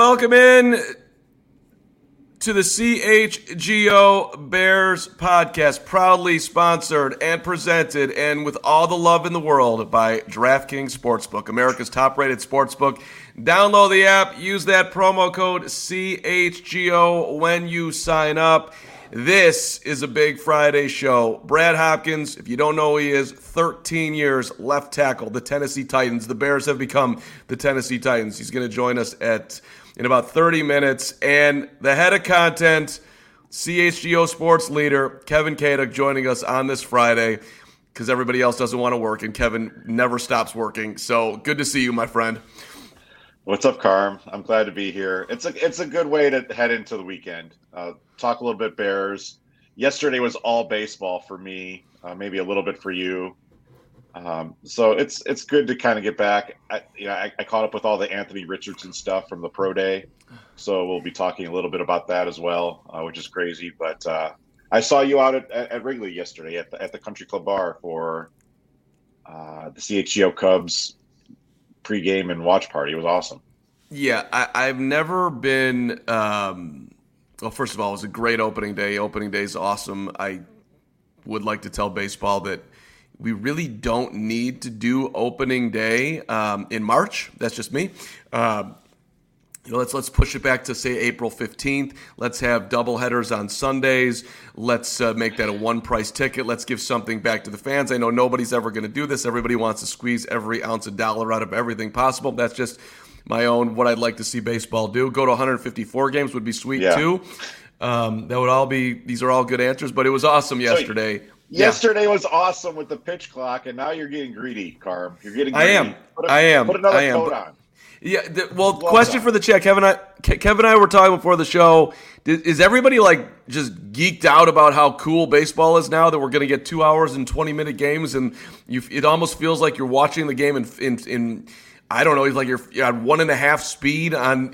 Welcome in to the CHGO Bears podcast, proudly sponsored and presented and with all the love in the world by DraftKings Sportsbook, America's top-rated sportsbook. Download the app, use that promo code CHGO when you sign up. This is a big Friday show. Brad Hopkins, if you don't know who he is, 13 years left tackle, the Tennessee Titans. The Bears have become the Tennessee Titans. He's going to join us in about 30 minutes. And the head of content, CHGO sports leader, Kevin Kaduk, joining us on this Friday because everybody else doesn't want to work, and Kevin never stops working. So good to see you, my friend. What's up, Carm? I'm glad to be here. It's a good way to head into the weekend. Talk a little bit Bears. Yesterday was all baseball for me, maybe a little bit for you. So it's good to kind of get back. I caught up with all the Anthony Richardson stuff from the Pro Day, so we'll be talking a little bit about that as well, which is crazy. But I saw you out at Wrigley yesterday at the Country Club Bar for the CHGO Cubs pregame and watch party. It was awesome. Yeah, I've never been. Well, first of all, it was a great opening day. Opening day is awesome. I would like to tell baseball that we really don't need to do opening day in March. That's just me. Let's push it back to, say, April 15th. Let's have doubleheaders on Sundays. Let's make that a one-price ticket. Let's give something back to the fans. I know nobody's ever going to do this. Everybody wants to squeeze every ounce of dollar out of everything possible. That's just my own, what I'd like to see baseball do. Go to 154 games would be sweet, too. That would all be, these are all good answers, but it was awesome yesterday. Yesterday was awesome with the pitch clock, and now you're getting greedy, Carm. You're getting greedy. I am. Put another coat on. Yeah. Question for the chat. Kevin and I were talking before the show. Is everybody just geeked out about how cool baseball is now that we're going to get 2 hours and 20-minute games, and it almost feels like you're watching the game in I don't know. It's like you're at 1.5 speed on.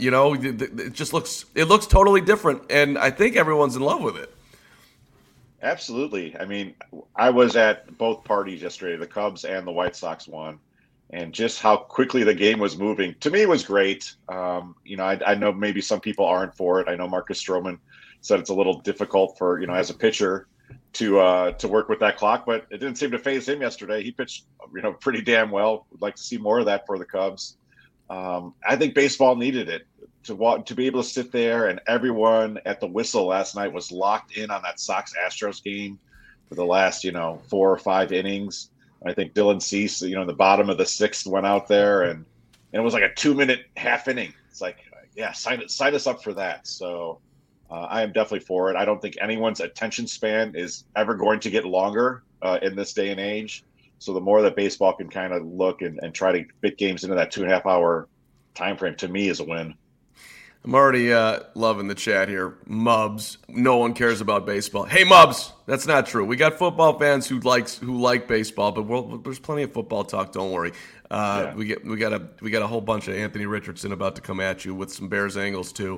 It looks totally different, and I think everyone's in love with it. Absolutely. I mean, I was at both parties yesterday, the Cubs and the White Sox one, and just how quickly the game was moving. To me, it was great. I know maybe some people aren't for it. I know Marcus Stroman said it's a little difficult for, as a pitcher to work with that clock, but it didn't seem to faze him yesterday. He pitched, pretty damn well. Would like to see more of that for the Cubs. I think baseball needed it. To be able to sit there, and everyone at the whistle last night was locked in on that Sox-Astros game for the last, 4 or 5 innings. I think Dylan Cease, in the bottom of the 6th went out there, and it was like a 2-minute half inning. It's like, sign us up for that. So I am definitely for it. I don't think anyone's attention span is ever going to get longer in this day and age. So the more that baseball can kind of look and try to fit games into that 2.5 hour time frame, to me, is a win. I'm already loving the chat here. Mubs, no one cares about baseball. Hey, Mubs, that's not true. We got football fans who like baseball, but there's plenty of football talk. Don't worry. We got a whole bunch of Anthony Richardson about to come at you with some Bears angles too.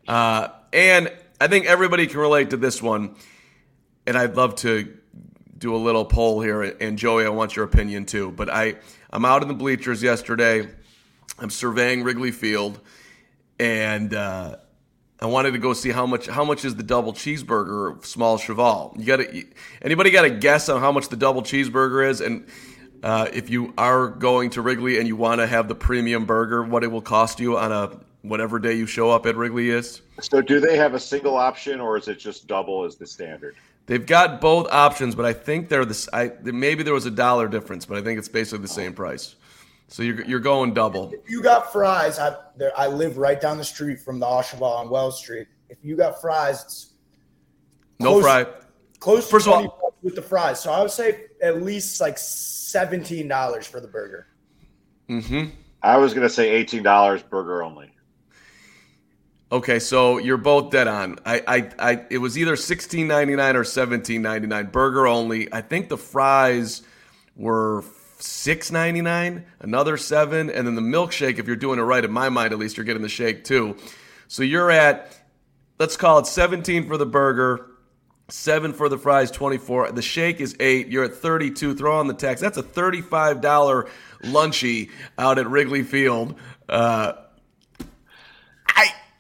And I think everybody can relate to this one. And I'd love to do a little poll here. And Joey, I want your opinion too. But I'm out in the bleachers yesterday. I'm surveying Wrigley Field. And I wanted to go see how much is the double cheeseburger small cheval. Anybody got a guess on how much the double cheeseburger is? And if you are going to Wrigley and you want to have the premium burger, what it will cost you on a whatever day you show up at Wrigley is? So do they have a single option, or is it just double as the standard? They've got both options, but I think maybe there was $1 difference, but I think it's basically the same price. So you're going double. If you got fries, I live right down the street from the Oshawa on Wells Street. If you got fries, it's close to 20 bucks with the fries. So I would say at least like $17 for the burger. Mm-hmm. I was going to say $18 burger only. Okay, so you're both dead on. It was either $16.99 or $17.99 burger only. I think the fries were $6.99, another $7, and then the milkshake, if you're doing it right, in my mind at least, you're getting the shake too. So you're at, let's call it 17 for the burger, 7 for the fries, 24. The shake is 8. You're at 32. Throw on the tax. That's a $35 lunchie out at Wrigley Field.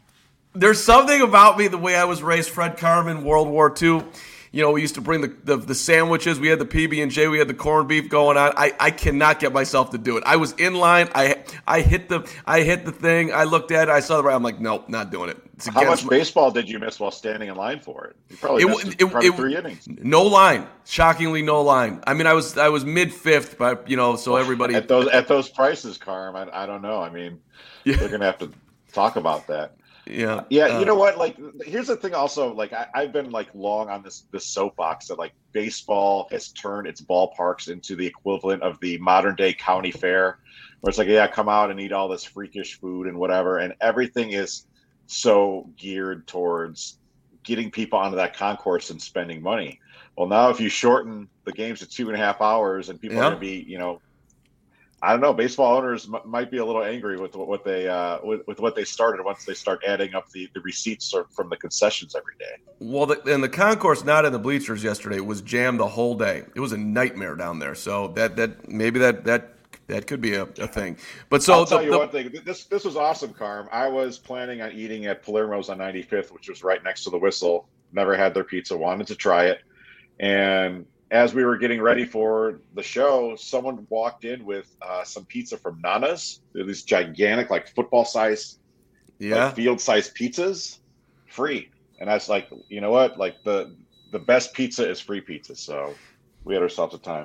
There's something about me, the way I was raised, Fred Carman, World War II. You know, we used to bring the sandwiches. We had the PB&J. We had the corned beef going on. I cannot get myself to do it. I was in line. I hit the thing. I looked at it. I saw the. I'm like, nope, not doing it. How much baseball did you miss while standing in line for it? You probably missed probably 3 innings. No line. Shockingly, no line. I mean, I was mid-fifth, but so everybody at those prices, Carm. I don't know. I mean, they're gonna have to talk about that. Yeah. You know what? Like, here's the thing. Also, like, I've been like long on this soapbox that like baseball has turned its ballparks into the equivalent of the modern day county fair, where it's like, yeah, come out and eat all this freakish food and whatever, and everything is so geared towards getting people onto that concourse and spending money. Well, now if you shorten the games to 2.5 hours, and people are going to be, I don't know. Baseball owners might be a little angry with what they with what they started once they start adding up the receipts from the concessions every day. Well, and the concourse, not in the bleachers yesterday, was jammed the whole day. It was a nightmare down there. So that maybe that could be a thing. But so I'll tell you one thing. This was awesome, Carm. I was planning on eating at Palermo's on 95th, which was right next to the Whistle. Never had their pizza. Wanted to try it, and as we were getting ready for the show, someone walked in with some pizza from Nana's. They're these gigantic, like football-sized, like field-sized pizzas, free. And I was like, you know what? Like the best pizza is free pizza. So we had ourselves a time.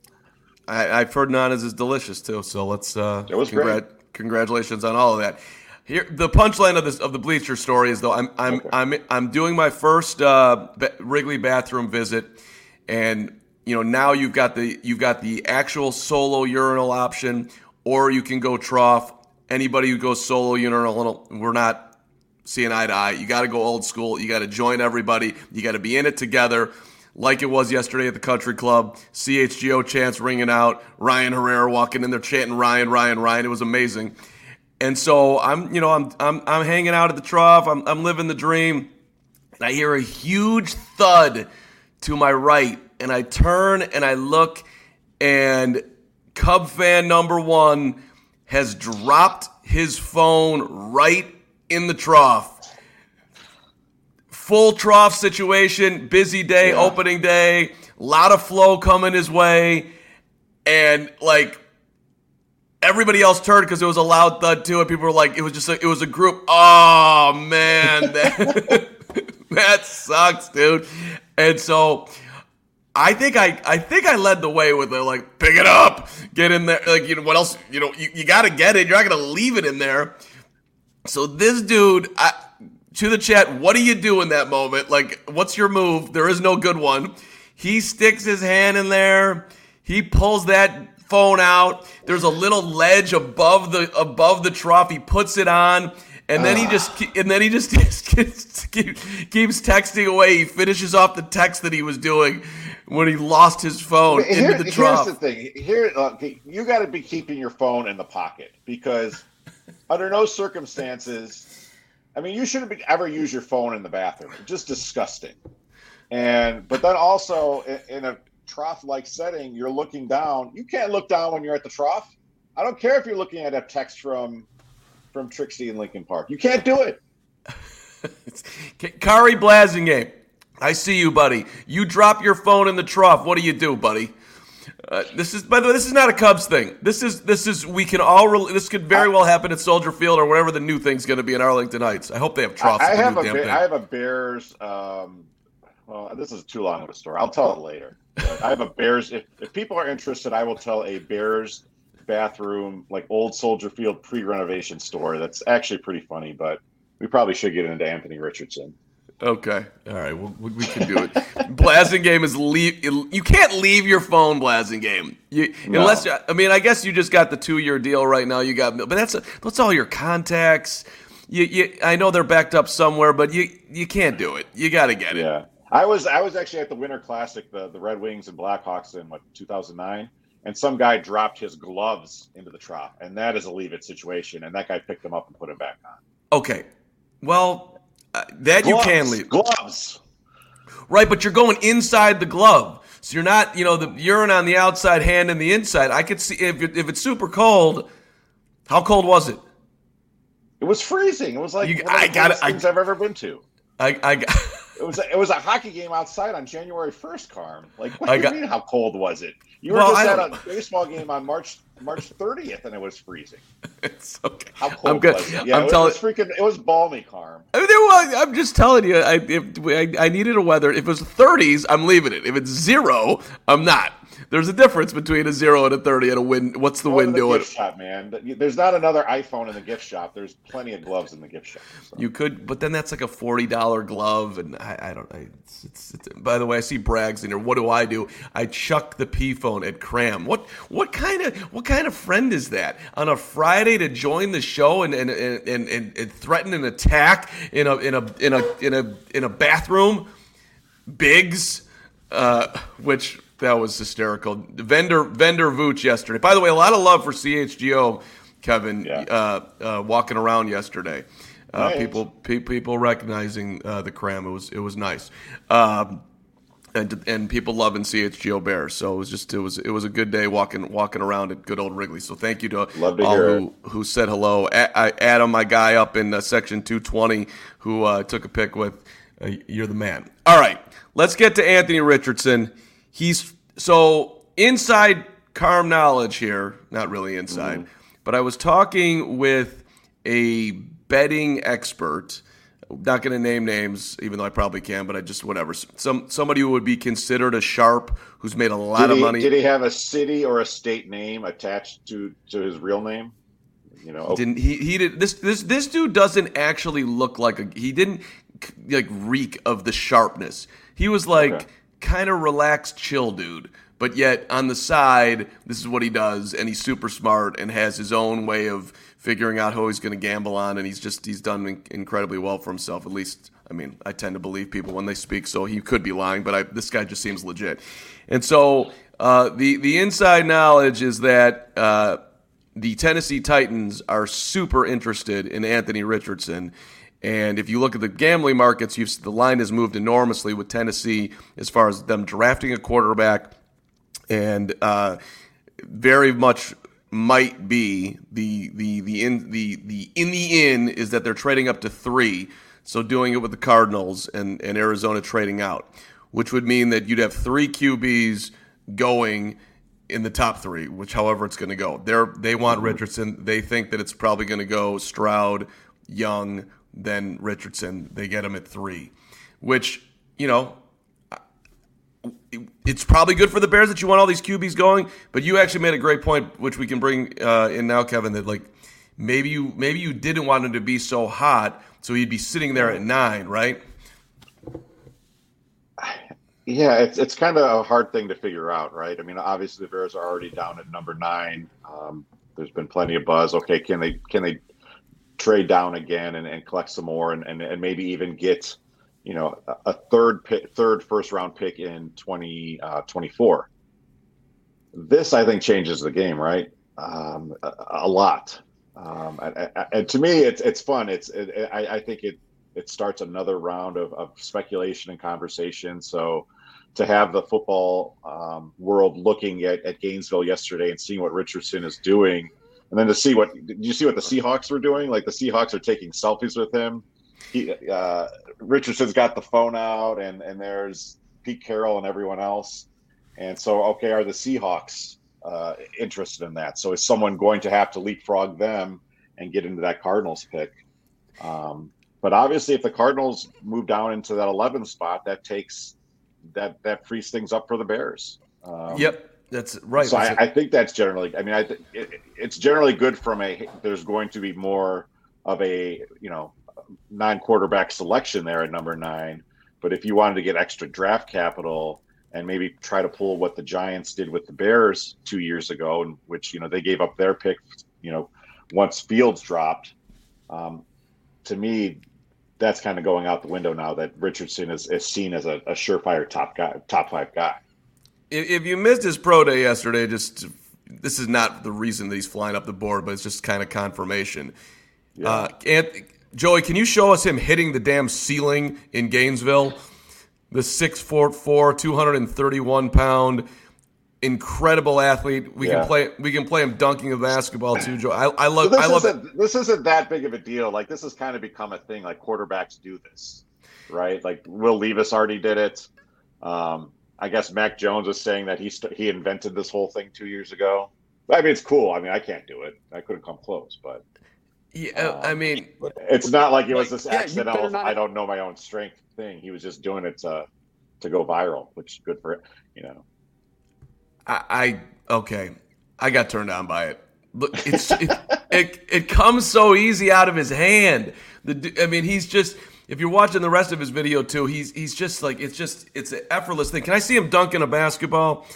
I've heard Nana's is delicious too. So let's it was great. Congratulations on all of that. Here, the punchline of the bleacher story is though I'm doing my first Wrigley bathroom visit. And now you've got the actual solo urinal option, or you can go trough. Anybody who goes solo urinal, we're not seeing eye to eye. You got to go old school. You got to join everybody. You got to be in it together, like it was yesterday at the country club. CHGO chants ringing out. Ryan Herrera walking in there chanting Ryan, Ryan, Ryan. It was amazing. And so I'm hanging out at the trough. I'm living the dream. And I hear a huge thud to my right, and I turn and I look, and Cub fan number 1 has dropped his phone right in the trough. Full trough situation, busy day, opening day, a lot of flow coming his way, and like everybody else turned because it was a loud thud too, and people were like, it was a group. Oh man, that sucks, dude. And so I think I led the way with it, like, pick it up, get in there. Like, what else? You got to get it. You're not going to leave it in there. So this dude, to the chat, what do you do in that moment? Like, what's your move? There is no good one. He sticks his hand in there. He pulls that phone out. There's a little ledge above the trough. He puts it on. And then he just keeps texting away. He finishes off the text that he was doing when he lost his phone into the trough. Here's the thing. You got to be keeping your phone in the pocket, because under no circumstances, I mean, you shouldn't ever use your phone in the bathroom. It's just disgusting. But then also in a trough-like setting, you're looking down. You can't look down when you're at the trough. I don't care if you're looking at a text from Trixie in Lincoln Park. You can't do it. Kari Blasingame, I see you, buddy. You drop your phone in the trough. What do you do, buddy? This is, by the way, this is not a Cubs thing. This could very well happen at Soldier Field or whatever the new thing's going to be in Arlington Heights. I hope they have troughs. I have a Bears. Well, this is too long of a story. I'll tell it later. But I have a Bears. If people are interested, I will tell a Bears bathroom, like old Soldier Field pre-renovation story. That's actually pretty funny, but we probably should get into Anthony Richardson. Okay. All right. We can do it. Blasingame is you can't leave your phone, Blasingame. Unless, I guess you just got the 2-year deal right now. But that's all your contacts. I know they're backed up somewhere, but you can't do it. You got to get it. Yeah. I was actually at the Winter Classic, the Red Wings and Blackhawks in 2009. And some guy dropped his gloves into the trough, and that is a leave-it situation. And that guy picked them up and put them back on. Okay, well, you can leave gloves, right? But you're going inside the glove, so you're not, the urine on the outside, hand in the inside. I could see if it's super cold. How cold was it? It was freezing. It was like one of the coolest things I've ever been to. It was a hockey game outside on January 1st, Carm. Like, what do you mean? How cold was it? You were just at a baseball game on March 30th, and it was freezing. It's okay. How cold was it? Yeah, it was balmy, Carm. I'm just telling you. I needed a weather. If it was 30s, I'm leaving it. If it's 0, I'm not. There's a difference between a 0 and a 30 and a wind. What's the wind doing? Gift shop, man. There's not another iPhone in the gift shop. There's plenty of gloves in the gift shop. So. You could, but then that's like a $40 glove, and I don't. By the way, I see Braggs in here. What do? I chuck the P phone at Cram. What kind of friend is that on a Friday to join the show and threaten an attack in a bathroom? Biggs, which. That was hysterical. Vendor Vooch yesterday. By the way, a lot of love for CHGO, Kevin, walking around yesterday. Nice. People recognizing the Cram. It was nice. And people loving CHGO Bears. So it was a good day walking around at good old Wrigley. So thank you to all who said hello. Adam, my guy up in section 220, who took a pic with. You're the man. All right, let's get to Anthony Richardson. So inside Carm knowledge here, not really inside, but I was talking with a betting expert. I'm not going to name names, even though I probably can, but I just whatever. Somebody who would be considered a sharp, who's made a lot of money. Did he have a city or a state name attached to his real name? You know, he did. This dude doesn't actually look like he didn't like reek of the sharpness. He was like. Kind of relaxed, chill dude, but yet on the side, this is what he does, and he's super smart and has his own way of figuring out who he's going to gamble on, and he's done incredibly well for himself. At least, I mean, I tend to believe people when they speak, so he could be lying, but this guy just seems legit. And so the inside knowledge is that the Tennessee Titans are super interested in Anthony Richardson. And if you look at the gambling markets, the line has moved enormously with Tennessee as far as them drafting a quarterback, and very much might be the in is that they're trading up to 3, so doing it with the Cardinals and Arizona trading out, which would mean that you'd have 3 QBs going in the top 3, which however it's going to go. They want Richardson. They think that it's probably going to go Stroud, Young. Then Richardson, they get him at 3, which, it's probably good for the Bears that you want all these QBs going, but you actually made a great point, which we can bring in now, Kevin, that like maybe you didn't want him to be so hot, so he'd be sitting there at 9, right? Yeah, it's kind of a hard thing to figure out, right? I mean, obviously the Bears are already down at number 9. There's been plenty of buzz. Okay, can they trade down again and collect some more and maybe even get a third first round pick in 2024. This I think changes the game, right? A lot. And to me it's fun. I think it starts another round of speculation and conversation. So to have the football world looking at Gainesville yesterday and seeing what Richardson is doing. And then to see did you see what the Seahawks were doing? Like the Seahawks are taking selfies with him. Richardson's got the phone out, and there's Pete Carroll and everyone else. And so, okay, are the Seahawks interested in that? So is someone going to have to leapfrog them and get into that Cardinals pick? But obviously, if the Cardinals move down into that 11th spot, that that frees things up for the Bears. Yep. That's right. So I think that's generally. I mean, it's generally good from there's going to be more of a non-quarterback selection there at number 9. But if you wanted to get extra draft capital and maybe try to pull what the Giants did with the Bears 2 years ago, in which they gave up their pick, once Fields dropped. To me, that's kind of going out the window now that Richardson is seen as a surefire top 5 guy. If you missed his pro day yesterday, this is not the reason that he's flying up the board, but it's just kind of confirmation. Yeah. Joey, can you show us him hitting the damn ceiling in Gainesville? The 6'4", 231-pound incredible athlete. We can play him dunking a basketball too, Joe. I love. This isn't that big of a deal. Like, this has kind of become a thing. Like, quarterbacks do this, right? Like, Will Levis already did it. I guess Mac Jones was saying that he invented this whole thing 2 years ago. I mean, it's cool. I mean, I can't do it. I couldn't come close, but yeah, I mean, it's not like it was this accidental. I don't know my own strength thing. He was just doing it to go viral, which is good for it. Okay. I got turned on by it. Look, it comes so easy out of his hand. He's just. If you're watching the rest of his video too, he's just like it's an effortless thing. Can I see him dunking a basketball?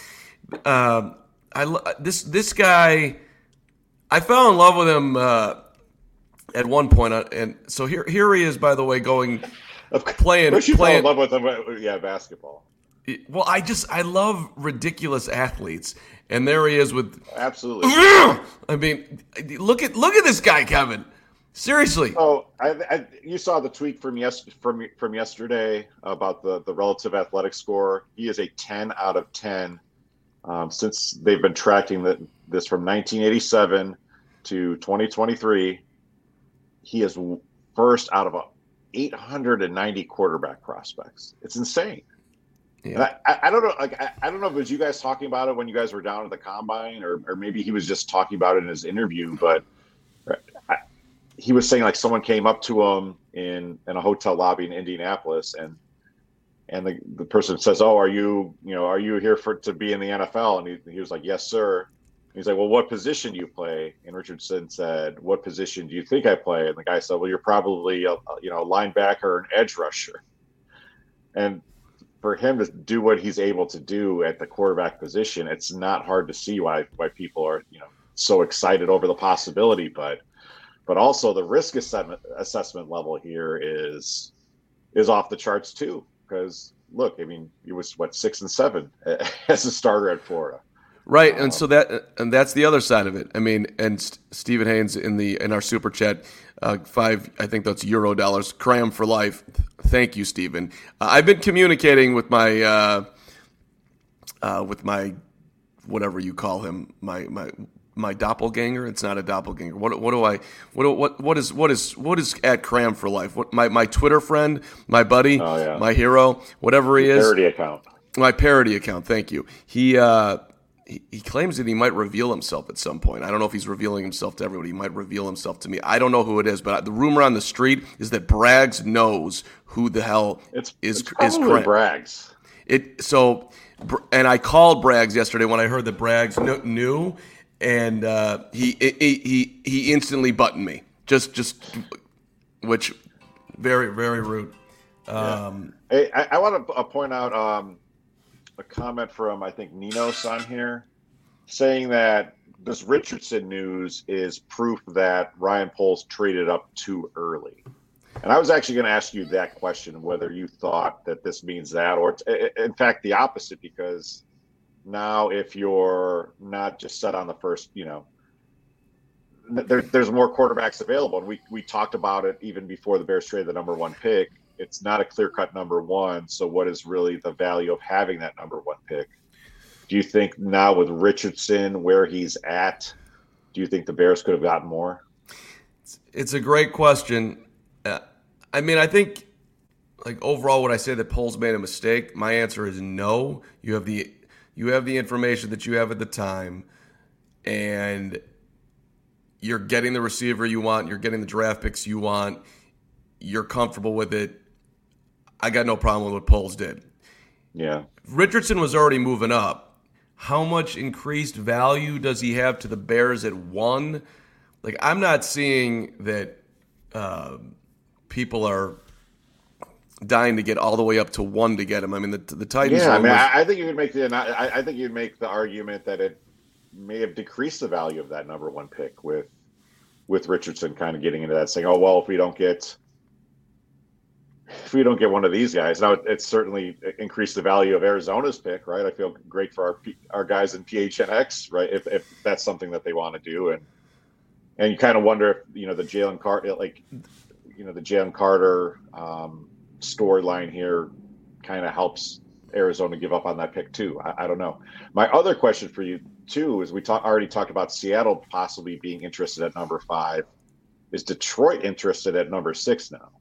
This guy, I fell in love with him at one point, and so here he is. By the way, playing. You fell in love with him? Yeah, basketball. Well, I love ridiculous athletes, and there he is with absolutely. I mean, look at this guy, Kevin. Seriously. Oh, you saw the tweet from yesterday about the relative athletic score. He is a 10 out of 10 since they've been tracking this from 1987 to 2023. He is first out of 890 quarterback prospects. It's insane. Yeah. I don't know. Like, I don't know if it was you guys talking about it when you guys were down at the combine, or maybe he was just talking about it in his interview. But he was saying, like, someone came up to him in a hotel lobby in Indianapolis, and the person says, "Oh, are you here to be in the NFL?" And he was like, "Yes, sir." And he's like, "Well, what position do you play?" And Richardson said, "What position do you think I play?" And the guy said, "Well, you're probably a linebacker or an edge rusher." And for him to do what he's able to do at the quarterback position, it's not hard to see why people are so excited over the possibility, but also the risk assessment level here is off the charts too. Because look, I mean, he was 6-7 as a starter at Florida, right? And so that's the other side of it. I mean, and Stephen Haynes in our super chat, I think that's $, Cram for life. Thank you, Stephen. I've been communicating with my whatever you call him, my doppelganger. It's not a doppelganger. What is at Cram for life? What my Twitter friend, my buddy, my hero, whatever he is. Parody account. My parody account. Thank you. He claims that he might reveal himself at some point. I don't know if he's revealing himself to everybody. He might reveal himself to me. I don't know who it is, but the rumor on the street is that Braggs knows who the hell it's is probably Braggs. And I called Braggs yesterday when I heard that Braggs knew, and he instantly buttoned me. Just which very, very rude. Hey, I want to point out a comment from, I think, Ninos on here, saying that this Richardson news is proof that Ryan Poles traded up too early. And I was actually going to ask you that question, whether you thought that this means that, or in fact the opposite, because now if you're not just set on the first, there's more quarterbacks available. And we talked about it even before the Bears traded the number 1 pick. It's not a clear-cut number 1. So what is really the value of having that number 1 pick? Do you think now with Richardson where he's at, do you think the Bears could have gotten more? It's a great question. I think, like, overall, would I say that Poles made a mistake? My answer is no. You have the information that you have at the time, and you're getting the receiver you want. You're getting the draft picks you want. You're comfortable with it. I got no problem with what Poles did. Yeah. Richardson was already moving up. How much increased value does he have to the Bears at 1? Like, I'm not seeing that people are dying to get all the way up to 1 to get him. I mean, the Titans. Yeah, I think you could make I think you'd make the argument that it may have decreased the value of that number 1 pick with Richardson kind of getting into that, saying, "Oh well, if we don't get one of these guys." Now, it's certainly increased the value of Arizona's pick, right? I feel great for our guys in PHNX, right? If that's something that they want to do, and you kind of wonder if the Jalen Carter storyline here kind of helps Arizona give up on that pick too. I don't know. My other question for you too is already talked about Seattle possibly being interested at number 5. Is Detroit interested at number 6 now?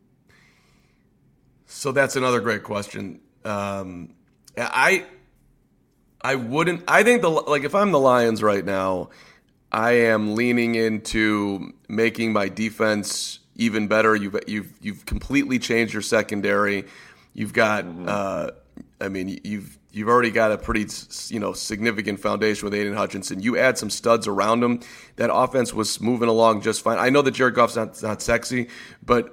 So that's another great question. I wouldn't. I think if I'm the Lions right now, I am leaning into making my defense even better. You've completely changed your secondary. You've got. You've already got a pretty significant foundation with Aiden Hutchinson. You add some studs around him. That offense was moving along just fine. I know that Jared Goff's not sexy, but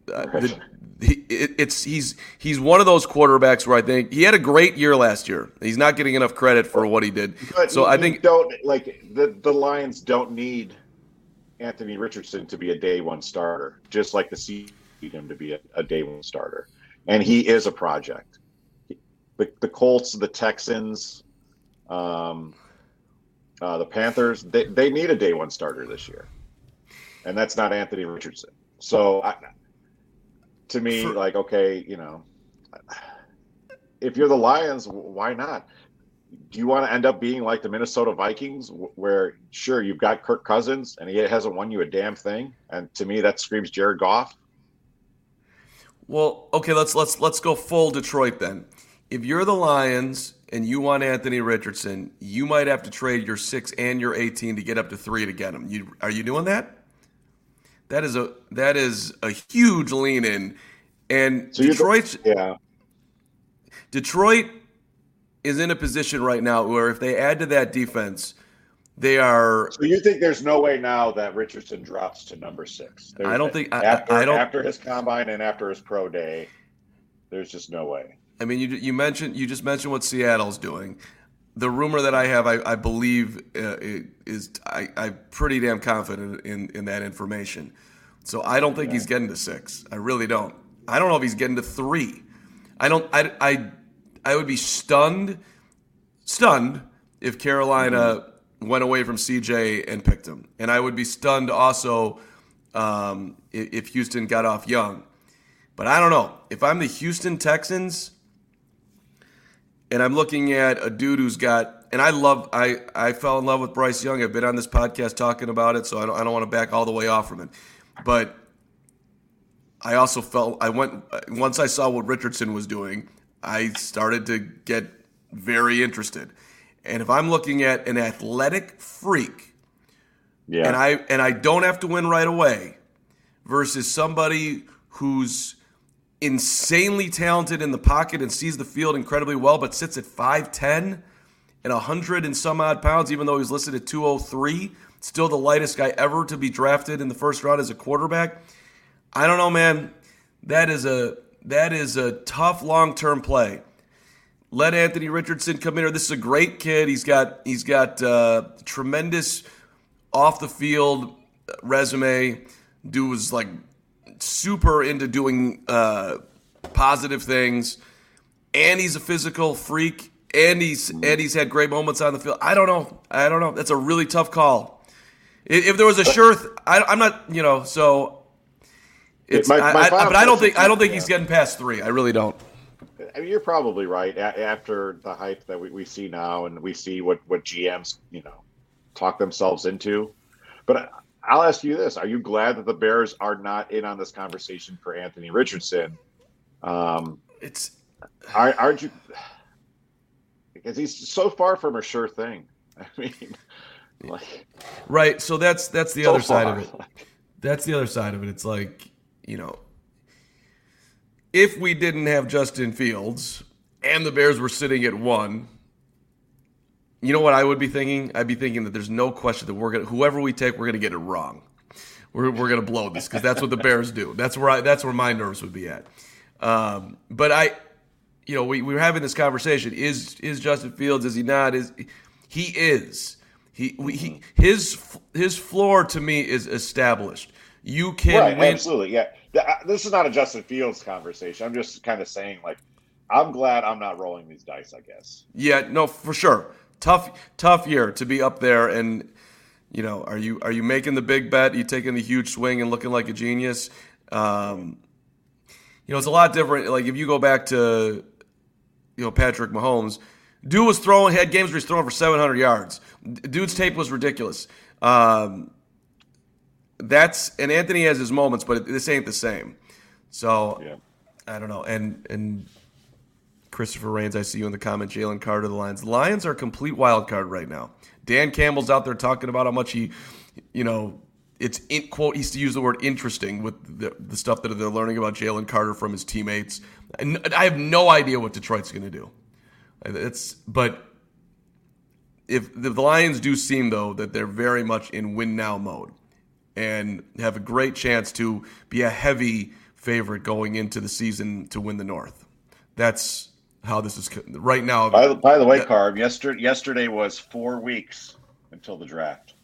he's one of those quarterbacks where I think he had a great year last year. He's not getting enough credit for what he did. But so I think the Lions don't need Anthony Richardson to be a day one starter, just like the Seahawks need him to be a day one starter, and he is a project. The Colts, the Texans, the Panthers, they need a day one starter this year, and that's not Anthony Richardson. So to me, if you're the Lions, why not? Do you want to end up being like the Minnesota Vikings, where sure you've got Kirk Cousins and he hasn't won you a damn thing? And to me, that screams Jared Goff. Well, okay, let's go full Detroit then. If you're the Lions and you want Anthony Richardson, you might have to trade your 6 and your 18 to get up to 3 to get him. Are you doing that? That is a huge lean in, and so Detroit is in a position right now where if they add to that defense, they are. So you think there's no way now that Richardson drops to number 6? I don't think after his combine and after his pro day, there's just no way. I mean, you just mentioned what Seattle's doing. The rumor that I have, I believe, I'm pretty damn confident in that information. So I don't think he's getting to 6. I really don't. I don't know if he's getting to 3. I would be stunned if Carolina went away from CJ and picked him, and I would be stunned also if Houston got off young. But I don't know if I'm the Houston Texans. And I'm looking at a dude who's got, and I fell in love with Bryce Young. I've been on this podcast talking about it, so I don't want to back all the way off from it. But I also once I saw what Richardson was doing, I started to get very interested. And if I'm looking at an athletic freak, and I don't have to win right away, versus somebody who's insanely talented in the pocket and sees the field incredibly well, but sits at 5'10" and 100 and some odd pounds, even though he's listed at 203, still the lightest guy ever to be drafted in the first round as a quarterback. I don't know, man. That is a tough long-term play. Let Anthony Richardson come in. This is a great kid. He's got tremendous off the field resume. Dude was like super into doing positive things, and he's a physical freak, and he's had great moments on the field. I don't know. That's a really tough call. If there was a I'm not, so it's. But I don't think he's getting past 3. I really don't. I mean, you're probably right. After the hype that we see now, and we see what GMs talk themselves into, but I'll ask you this: are you glad that the Bears are not in on this conversation for Anthony Richardson? Aren't you? Because he's so far from a sure thing. I mean, right. So that's the other side of it. That's the other side of it. It's like, if we didn't have Justin Fields and the Bears were sitting at 1. You know what I would be thinking? I'd be thinking that there's no question that whoever we take, we're gonna get it wrong. We're gonna blow this because that's what the Bears do. That's where my nerves would be at. But we were having this conversation. Is Justin Fields? Is he not? He is. His floor to me is established. You can win. Absolutely, yeah. This is not a Justin Fields conversation. I'm just kind of saying, I'm glad I'm not rolling these dice, I guess. Yeah, no, for sure. Tough year to be up there, and are you making the big bet? Are you taking the huge swing and looking like a genius? It's a lot different. Like if you go back to Patrick Mahomes. Dude had games where he's throwing for 700 yards. Dude's tape was ridiculous. And Anthony has his moments, but this ain't the same. So yeah. I don't know. And Christopher Rains, I see you in the comment. Jalen Carter, the Lions. The Lions are a complete wild card right now. Dan Campbell's out there talking about how much he, it's in quote. He used to use the word interesting with the stuff that they're learning about Jalen Carter from his teammates. And I have no idea what Detroit's going to do. But if the Lions do seem though that they're very much in win now mode and have a great chance to be a heavy favorite going into the season to win the North. That's how this is right now. By the way, Carb, yesterday was 4 weeks until the draft.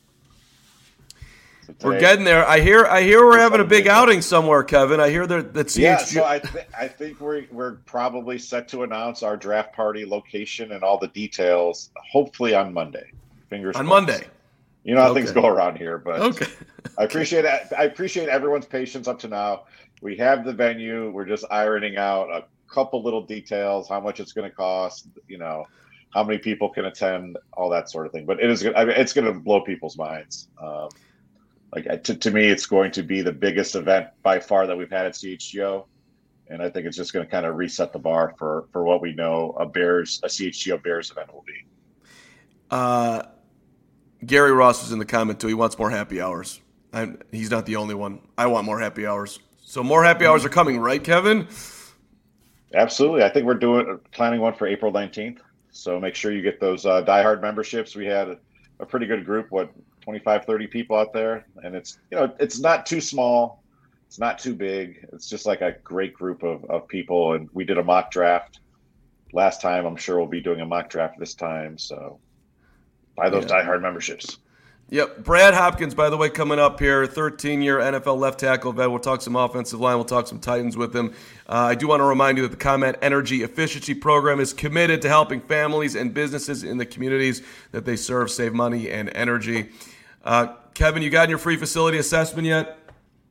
So today, we're getting there. I hear we're having a big outing somewhere, Kevin. I hear that CHG. Yeah, so I think we're probably set to announce our draft party location and all the details. Hopefully on Monday. Fingers crossed. Monday. You know how things go around here, but okay. I appreciate it. I appreciate everyone's patience up to now. We have the venue. We're just ironing out a couple little details, how much it's going to cost, how many people can attend, all that sort of thing. But it's going to blow people's minds. To me, it's going to be the biggest event by far that we've had at CHGO. And I think it's just going to kind of reset the bar for what we know a CHGO Bears event will be. Gary Ross was in the comment too. He wants more happy hours. He's not the only one. I want more happy hours. So more happy hours are coming, right, Kevin? Absolutely. I think we're planning one for April 19th. So make sure you get those diehard memberships. We had a pretty good group, 25, 30 people out there. And it's not too small. It's not too big. It's just like a great group of people. And we did a mock draft last time. I'm sure we'll be doing a mock draft this time. So buy those diehard memberships. Yep. Brad Hopkins, by the way, coming up here, 13-year NFL left tackle vet. We'll talk some offensive line. We'll talk some Titans with him. I do want to remind you that the ComEd Energy Efficiency Program is committed to helping families and businesses in the communities that they serve save money and energy. Kevin, you gotten your free facility assessment yet?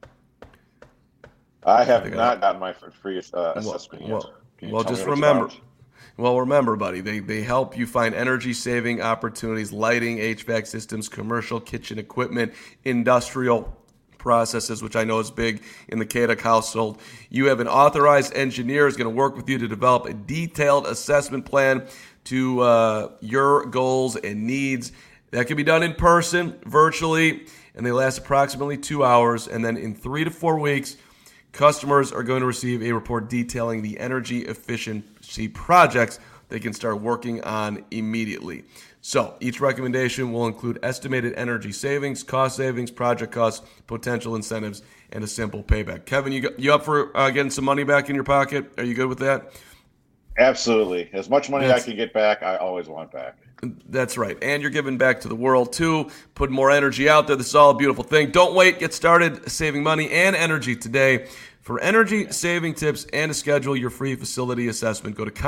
I have not gotten my free assessment yet. Well, just remember. Well, remember, buddy, they help you find energy-saving opportunities, lighting, HVAC systems, commercial kitchen equipment, industrial processes, which I know is big in the Kaduk household. You have an authorized engineer who's going to work with you to develop a detailed assessment plan to your goals and needs. That can be done in person, virtually, and they last approximately 2 hours. And then in 3 to 4 weeks, customers are going to receive a report detailing the energy efficiency projects they can start working on immediately. So each recommendation will include estimated energy savings, cost savings, project costs, potential incentives, and a simple payback. Kevin, you up for getting some money back in your pocket? Are you good with that? Absolutely. As much money I can get back, I always want back. That's right. And you're giving back to the world, too. Put more energy out there. This is all a beautiful thing. Don't wait. Get started saving money and energy today. For energy-saving tips and to schedule your free facility assessment, go to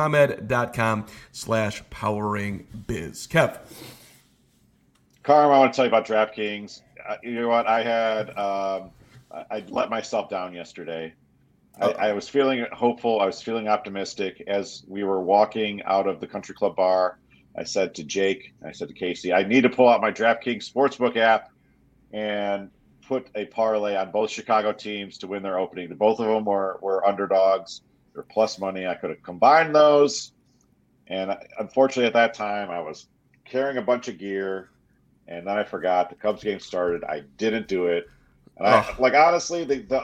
ComEd.com/poweringbiz. Kev. Carm, I want to tell you about DraftKings. You know what? I let myself down yesterday. I was feeling hopeful. I was feeling optimistic. As we were walking out of the country club bar, I said to Jake, I said to Casey, I need to pull out my DraftKings Sportsbook app and put a parlay on both Chicago teams to win their opening. Both of them were underdogs. They're plus money. I could have combined those. And unfortunately, at that time, I was carrying a bunch of gear. And then I forgot. The Cubs game started. I didn't do it. And honestly,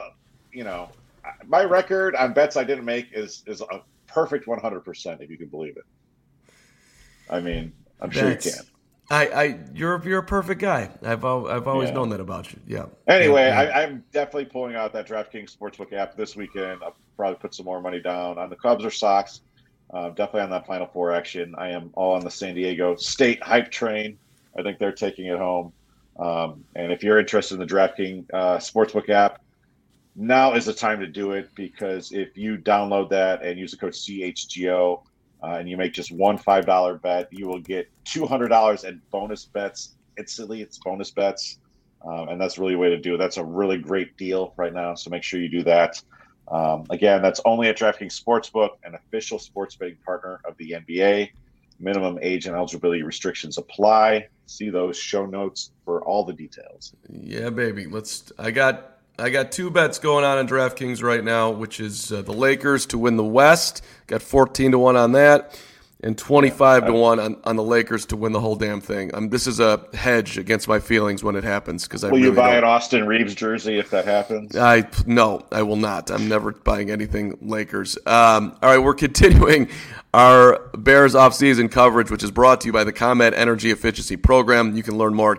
my record on bets I didn't make is a perfect 100%, if you can believe it. I mean, I'm sure you can. You're a perfect guy. I've always known that about you. Yeah. Anyway, I'm definitely pulling out that DraftKings Sportsbook app this weekend. I'll probably put some more money down on the Cubs or Sox. Definitely on that Final Four action. I am all on the San Diego State hype train. I think they're taking it home. And if you're interested in the DraftKings Sportsbook app, now is the time to do it, because if you download that and use the code CHGO and you make just one $5 bet, you will get $200 in bonus bets instantly. It's bonus bets. And that's really a way to do it. That's a really great deal right now. So make sure you do that. Again, that's only at DraftKings Sportsbook, an official sports betting partner of the NBA. Minimum age and eligibility restrictions apply. See those show notes for all the details. Yeah, baby. I got two bets going on DraftKings right now, which is the Lakers to win the West. Got 14-1 on that, and 25-1 on the Lakers to win the whole damn thing. This is a hedge against my feelings when it happens because Will you buy an Austin Reeves jersey if that happens? No, I will not. I'm never buying anything Lakers. All right, we're continuing our Bears offseason coverage, which is brought to you by the ComEd Energy Efficiency Program. You can learn more at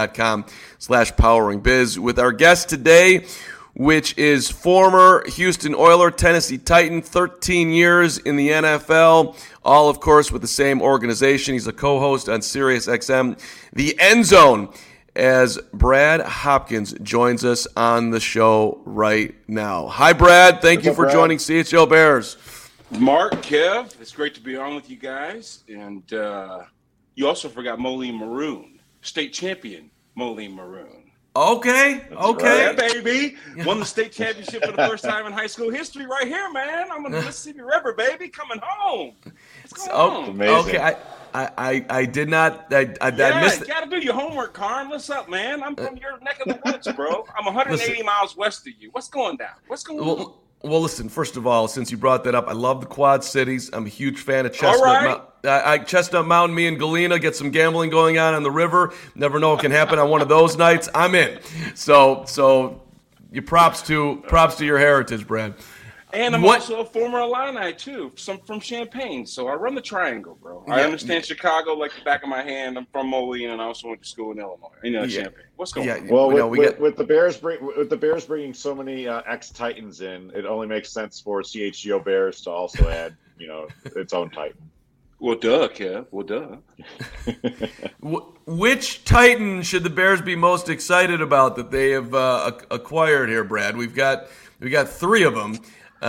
ComEd.com/poweringbiz. With our guest today, which is former Houston Oiler, Tennessee Titan, 13 years in the NFL, all, of course, with the same organization. He's a co-host on SiriusXM, The End Zone, as Brad Hopkins joins us on the show right now. Hi, Brad. Thank you for joining CHL Bears. Mark, Kev, it's great to be on with you guys. And you also forgot Moline Maroon, state champion Moline Maroon. Okay. Yeah, baby. Won the state championship for the first time in high school history right here, man. I'm on the Mississippi River, baby. Coming home. What's going on? Amazing. Okay, I did not. I missed you got to do your homework, Karn. What's up, man? I'm from your neck of the woods, bro. I'm 180 miles west of you. What's going down? What's going on? Well, listen, first of all, since you brought that up, I love the Quad Cities. I'm a huge fan of Chestnut Mountain. Chestnut Mountain, me and Galena get some gambling going on the river. Never know what can happen on one of those nights. I'm in. So you props to your heritage, Brad. And I'm also a former Illini, too, from Champaign. So I run the triangle, bro. I understand Chicago like the back of my hand. I'm from Moline, and I also went to school in Illinois. Champaign. What's going on? Well, with the Bears bringing so many ex-Titans in, it only makes sense for CHGO Bears to also add, its own Titan. Well, duh, Kev. Well, duh. Which Titan should the Bears be most excited about that they have acquired here, Brad? We got three of them.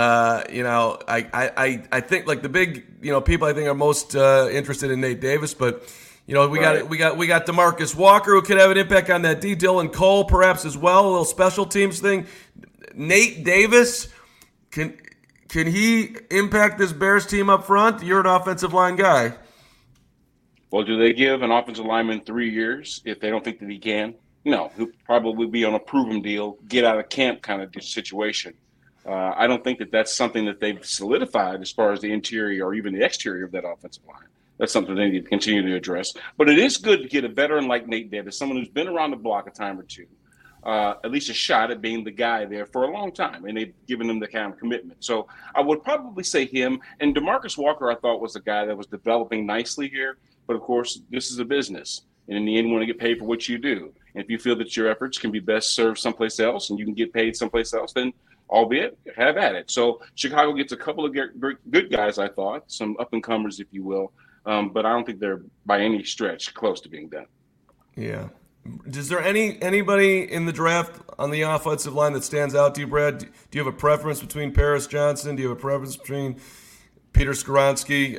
I think like the big, people I think are most interested in Nate Davis, but we got DeMarcus Walker who could have an impact on that D. Dylan Cole perhaps as well, a little special teams thing. Nate Davis, can he impact this Bears team up front? You're an offensive line guy. Well, do they give an offensive lineman 3 years if they don't think that he can? No, he'll probably be on a proven deal, get out of camp kind of situation. I don't think that that's something that they've solidified as far as the interior or even the exterior of that offensive line. That's something they need to continue to address. But it is good to get a veteran like Nate Davis, someone who's been around the block a time or two, at least a shot at being the guy there for a long time, and they've given him the kind of commitment. So I would probably say him. And DeMarcus Walker, I thought, was a guy that was developing nicely here. But, of course, this is a business. And in the end, you want to get paid for what you do. And if you feel that your efforts can be best served someplace else and you can get paid someplace else, then albeit, have at it. So Chicago gets a couple of good guys, I thought, some up-and-comers, if you will. But I don't think they're by any stretch close to being done. Yeah. Is there anybody in the draft on the offensive line that stands out to you, Brad? Do you have a preference between Paris Johnson? Do you have a preference between Peter Skoronski?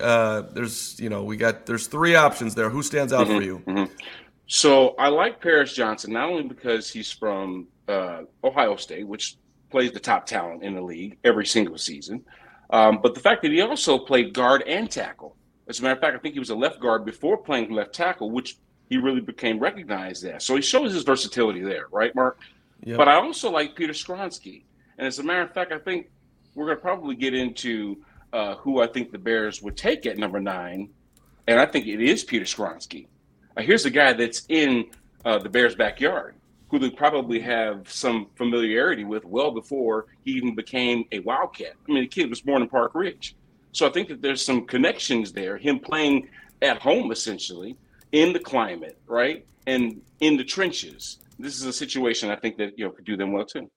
There's three options there. Who stands out for you? Mm-hmm. So I like Paris Johnson, not only because he's from Ohio State, which plays the top talent in the league every single season, but the fact that he also played guard and tackle. As a matter of fact, I think he was a left guard before playing left tackle, which he really became recognized as. So he shows his versatility there, right, Mark? Yep. But I also like Peter Skoronski. And as a matter of fact, I think we're going to probably get into who I think the Bears would take at number 9, and I think it is Peter Skoronski. Here's a guy that's in the Bears' backyard, who they probably have some familiarity with well before he even became a Wildcat. I mean, the kid was born in Park Ridge. So I think that there's some connections there, him playing at home, essentially, in the climate, right, and in the trenches. This is a situation I think that, could do them well, too.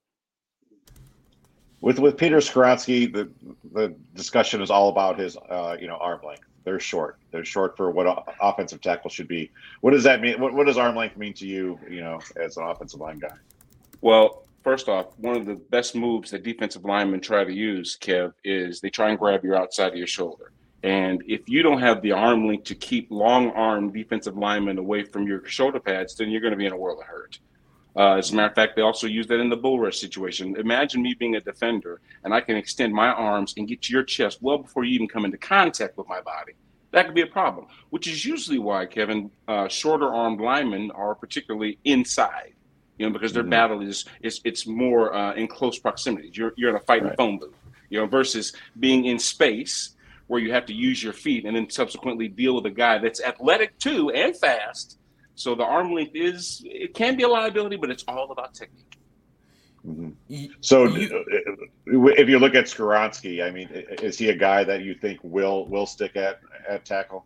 With Peter Skoronski, the discussion is all about his, arm length. They're short. They're short for what offensive tackle should be. What does that mean? What does arm length mean to you, as an offensive line guy? Well, first off, one of the best moves that defensive linemen try to use, Kev, is they try and grab your outside of your shoulder. And if you don't have the arm length to keep long-arm defensive linemen away from your shoulder pads, then you're going to be in a world of hurt. As a matter of fact, they also use that in the bull rush situation. Imagine me being a defender, and I can extend my arms and get to your chest well before you even come into contact with my body. That could be a problem, which is usually why, Kevin, shorter-armed linemen are particularly inside, because their battle is it's more in close proximity. You're in a fighting phone booth, versus being in space where you have to use your feet and then subsequently deal with a guy that's athletic too and fast. So the arm length it can be a liability, but it's all about technique. Mm-hmm. So if you look at Skoronski, I mean, is he a guy that you think will stick at tackle?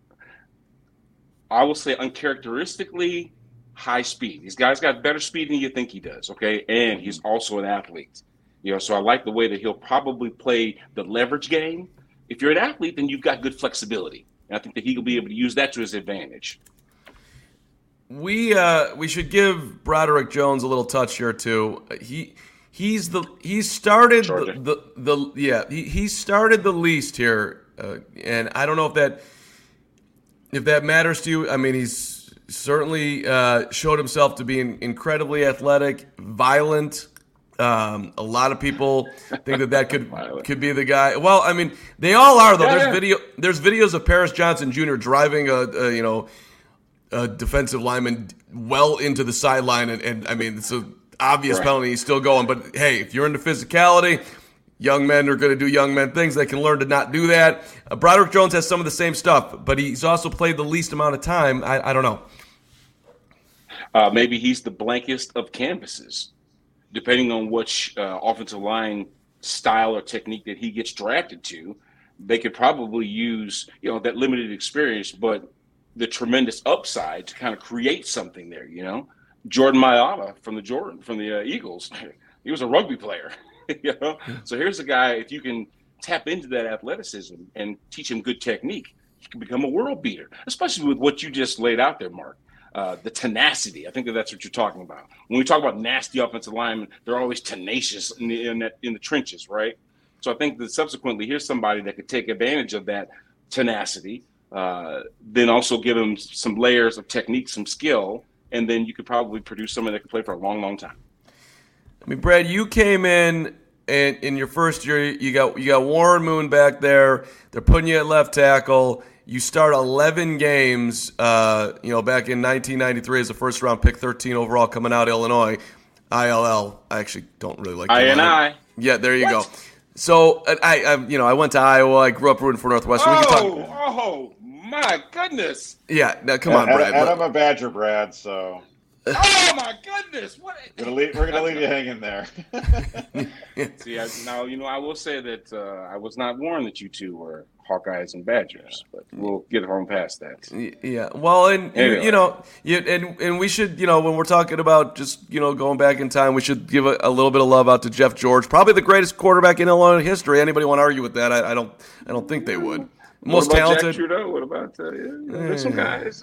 I will say uncharacteristically high speed. These guys got better speed than you think he does, okay? And he's also an athlete. So I like the way that he'll probably play the leverage game. If you're an athlete, then you've got good flexibility. And I think that he'll be able to use that to his advantage. We should give Broderick Jones a little touch here too. He started he started the least here, and I don't know if that matters to you. I mean, he's certainly showed himself to be incredibly athletic, violent. A lot of people think that could be the guy. Well, I mean, they all are though. There's videos of Paris Johnson Jr. driving a defensive lineman well into the sideline, and I mean, it's an obvious penalty. He's still going, but hey, if you're into physicality, young men are going to do young men things. They can learn to not do that. Broderick Jones has some of the same stuff, but he's also played the least amount of time. I don't know. Maybe he's the blankest of canvases, depending on which offensive line style or technique that he gets drafted to. They could probably use that limited experience, but the tremendous upside to kind of create something there. Jordan Mailata from the Eagles, he was a rugby player. So here's a guy, if you can tap into that athleticism and teach him good technique, he can become a world beater, especially with what you just laid out there, Mark. The tenacity. I think that's what you're talking about. When we talk about nasty offensive linemen, they're always tenacious in the trenches, right? So I think that subsequently, here's somebody that could take advantage of that tenacity, then also give him some layers of technique, some skill, and then you could probably produce someone that can play for a long, long time. I mean, Brad, you came in, and in your first year, you got Warren Moon back there. They're putting you at left tackle. You start 11 games, back in 1993 as a first-round pick, 13 overall, coming out of Illinois. ILL. I actually don't really like that. INI. Yeah, there you go. So I went to Iowa. I grew up rooting for Northwestern. Oh my goodness! Yeah, now come on, Brad. And I'm a Badger, Brad. So. Oh my goodness! What? We're gonna leave you hanging there. See, I will say that I was not warned that you two were Hawkeyes and Badgers, but we'll get home past that. Yeah, well, and anyway. and we should, when we're talking about just going back in time, we should give a little bit of love out to Jeff George, probably the greatest quarterback in Illinois history. Anybody want to argue with that? I don't think they would. Most what about talented. Jack Trudeau? What about there's some guys?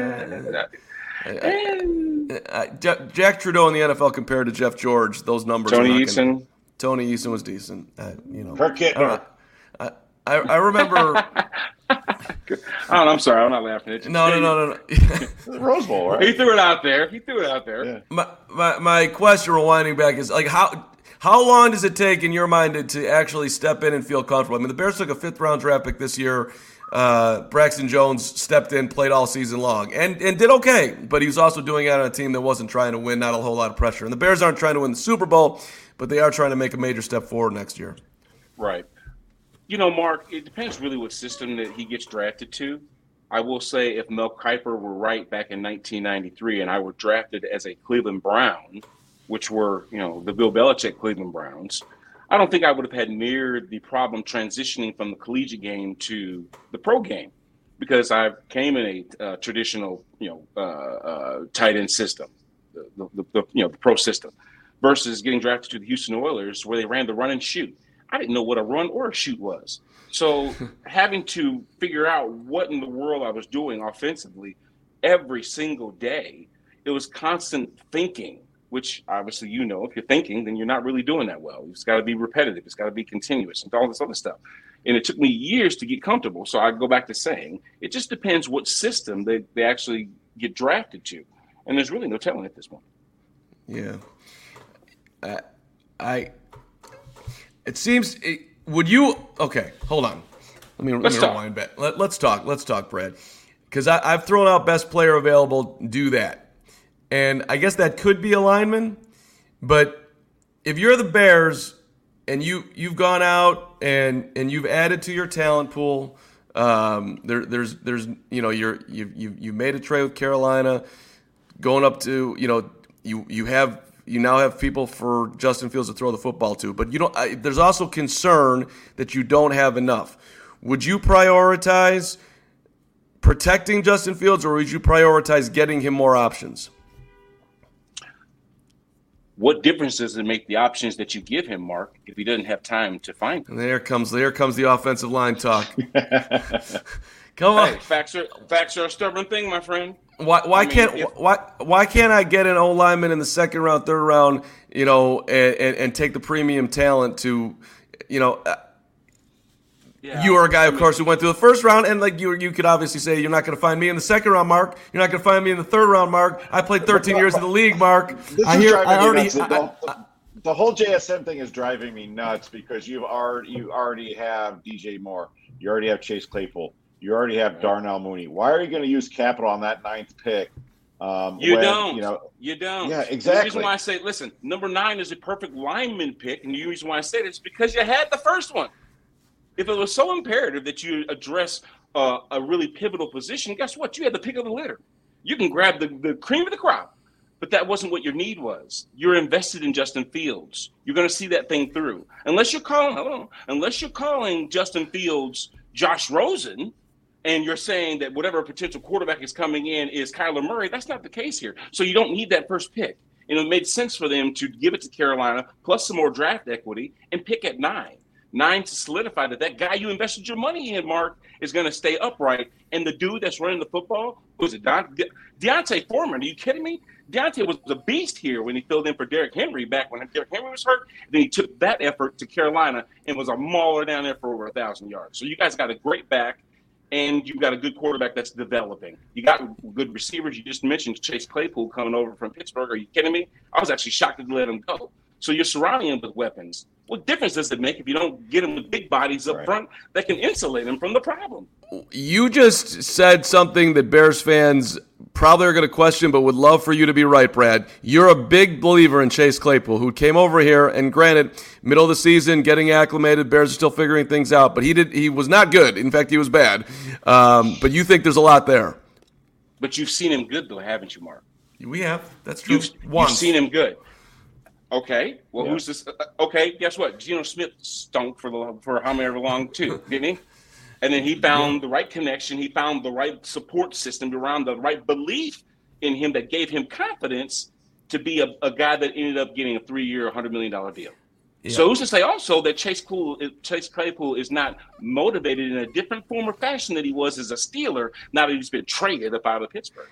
Jack Trudeau in the NFL compared to Jeff George, those numbers. Tony Eason. Tony Eason was decent. Kirk Kittner. I remember. I'm sorry, I'm not laughing at you. No. Rose Bowl, right? He threw it out there. Yeah. My question, rewinding back, is like how long does it take in your mind to actually step in and feel comfortable? I mean, the Bears took a 5th-round draft pick this year. Braxton Jones stepped in, played all season long, and did okay. But he was also doing it on a team that wasn't trying to win, not a whole lot of pressure. And the Bears aren't trying to win the Super Bowl, but they are trying to make a major step forward next year. Right. Mark, it depends really what system that he gets drafted to. I will say if Mel Kiper were right back in 1993 and I were drafted as a Cleveland Brown, which were, the Bill Belichick Cleveland Browns, I don't think I would have had near the problem transitioning from the collegiate game to the pro game, because I came in a traditional, tight end system, the pro system, versus getting drafted to the Houston Oilers where they ran the run and shoot. I didn't know what a run or a shoot was. So having to figure out what in the world I was doing offensively every single day, it was constant thinking, which obviously, if you're thinking, then you're not really doing that well. It's got to be repetitive. It's got to be continuous and all this other stuff. And it took me years to get comfortable. So I go back to saying, it just depends what system they actually get drafted to. And there's really no telling at this point. Yeah. It seems. Would you? Okay, hold on. Let me rewind back. Let's talk, Brad. Because I've thrown out best player available. Do that, and I guess that could be a lineman. But if you're the Bears and you've gone out and you've added to your talent pool, there's you've made a trade with Carolina, going up to you now have people for Justin Fields to throw the football to, but there's also concern that you don't have enough. Would you prioritize protecting Justin Fields, or would you prioritize getting him more options? What difference does it make the options that you give him, Mark, if he doesn't have time to find them? And there comes the offensive line talk. Come on. Hey, facts are a stubborn thing, my friend. Why can't I get an O lineman in the second round, third round, and take the premium talent to, you are a guy, of course, who went through the first round, and like you could obviously say you're not going to find me in the second round, Mark. You're not going to find me in the third round, Mark. I played 13 years in the league, Mark. The whole JSN thing is driving me nuts because you already have DJ Moore, you already have Chase Claypool, you already have Darnell Mooney. Why are you going to use capital on that 9th pick? You don't. Yeah, exactly. The reason why I say, listen, number 9 is a perfect lineman pick, and the reason why I say it is because you had the first one. If it was so imperative that you address a really pivotal position, guess what? You had the pick of the litter. You can grab the cream of the crop, but that wasn't what your need was. You're invested in Justin Fields. You're going to see that thing through. Unless you're calling Justin Fields Josh Rosen, and you're saying that whatever potential quarterback is coming in is Kyler Murray, that's not the case here. So you don't need that first pick. And it made sense for them to give it to Carolina, plus some more draft equity, and pick at 9. 9 to solidify that guy you invested your money in, Mark, is going to stay upright. And the dude that's running the football, was it Deontay Foreman? Are you kidding me? Deontay was a beast here when he filled in for Derrick Henry back when Derrick Henry was hurt. Then he took that effort to Carolina and was a mauler down there for over 1,000 yards. So you guys got a great back, and you've got a good quarterback that's developing. You got good receivers. You just mentioned Chase Claypool coming over from Pittsburgh. Are you kidding me? I was actually shocked to let him go. So you're surrounding him with weapons. What difference does it make if you don't get him with big bodies up front that can insulate him from the problem? You just said something that Bears fans probably are going to question, but would love for you to be right, Brad. You're a big believer in Chase Claypool, who came over here, and granted, middle of the season, getting acclimated, Bears are still figuring things out, but he was not good. In fact, he was bad. But you think there's a lot there. But you've seen him good, though, haven't you, Mark? We have. That's true. You've seen him good. Okay, well, who's this? Okay, guess what? Geno Smith stunk for however long, too, didn't he? And then he found the right connection. He found the right support system around the right belief in him that gave him confidence to be a guy that ended up getting a 3-year, $100 million deal. Yeah. So who's to say also that Chase Claypool is not motivated in a different form or fashion that he was as a Steeler now that he's been traded up out of Pittsburgh?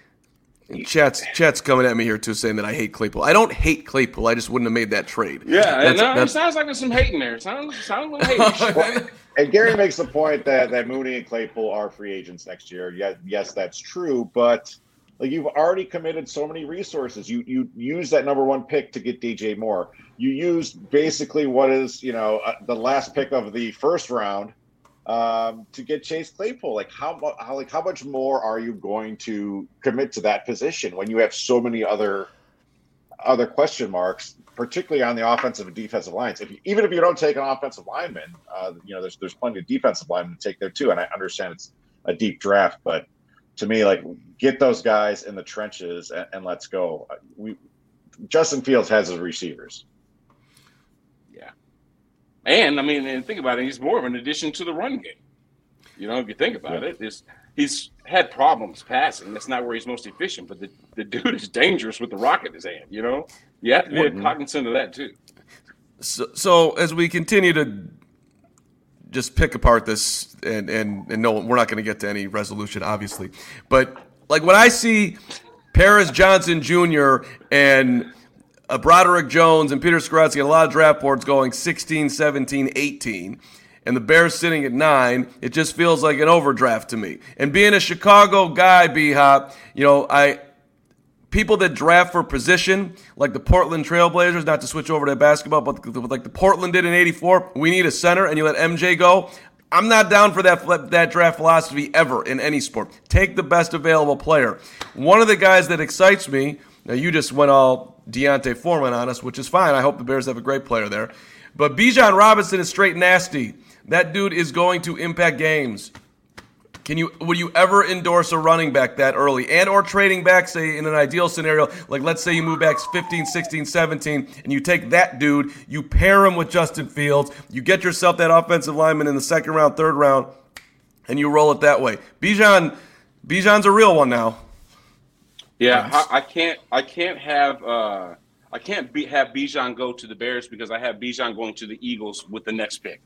Chat's coming at me here too, saying that I hate Claypool. I don't hate Claypool. I just wouldn't have made that trade. Yeah, it sounds like there's some hate in there. It sounds like hate. And Gary makes the point that Mooney and Claypool are free agents next year. Yes, that's true. But like, you've already committed so many resources. You use that number 1 pick to get DJ Moore. You used basically what is the last pick of the first round to get Chase Claypool. Like how much more are you going to commit to that position when you have so many other question marks, particularly on the offensive and defensive lines? Even if you don't take an offensive lineman, there's plenty of defensive linemen to take there too. And I understand it's a deep draft, but to me, like, get those guys in the trenches and let's go. Justin Fields has his receivers. And, I mean, and think about it, he's more of an addition to the run game. If you think about it, he's had problems passing. That's not where he's most efficient, but the dude is dangerous with the rock in his hand, You have to be cognizant of that, too. So as we continue to just pick apart this, and no, we're not going to get to any resolution, obviously. But, like, when I see Paris Johnson Jr. and Broderick Jones and Peter Skoronski and a lot of draft boards going 16, 17, 18, and the Bears sitting at 9, it just feels like an overdraft to me. And being a Chicago guy, B-Hop, people that draft for position, like the Portland Trailblazers, not to switch over to basketball, but like the Portland did in '84, we need a center, and you let MJ go. I'm not down for that draft philosophy ever in any sport. Take the best available player. One of the guys that excites me, now you just went all Deontay Foreman on us, which is fine. I hope the Bears have a great player there. But Bijan Robinson is straight nasty. That dude is going to impact games. Would you ever endorse a running back that early? And or trading back, say, in an ideal scenario, like let's say you move back 15, 16, 17, and you take that dude, you pair him with Justin Fields, you get yourself that offensive lineman in the second round, third round, and you roll it that way. Bijan's a real one now. Yeah, I can't have Bijan go to the Bears because I have Bijan going to the Eagles with the next pick.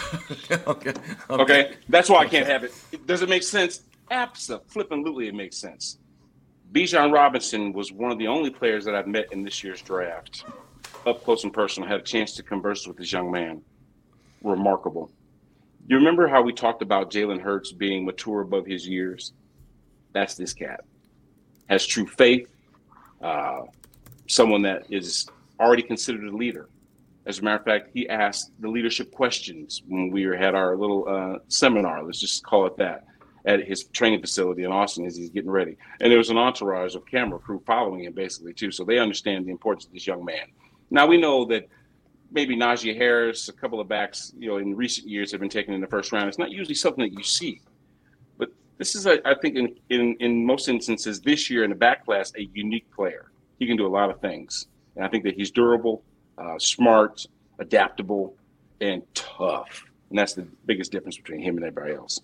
Okay. That's why I can't have it. Does it make sense? Absolutely, it makes sense. Bijan Robinson was one of the only players that I've met in this year's draft. Up close and personal, I had a chance to converse with this young man. Remarkable. You remember how we talked about Jalen Hurts being mature above his years? That's this cat. Has true faith. Someone that is already considered a leader. As a matter of fact, he asked the leadership questions when we had our little seminar, let's just call it that, at his training facility in Austin as he's getting ready. And there was an entourage of camera crew following him basically too, so they understand the importance of this young man. Now we know that maybe Najee Harris, a couple of backs, in recent years have been taken in the first round. It's not usually something that you see. But this is, I think, in most instances this year in the back class, a unique player. He can do a lot of things. And I think that he's durable, smart, adaptable, and tough. And that's the biggest difference between him and everybody else.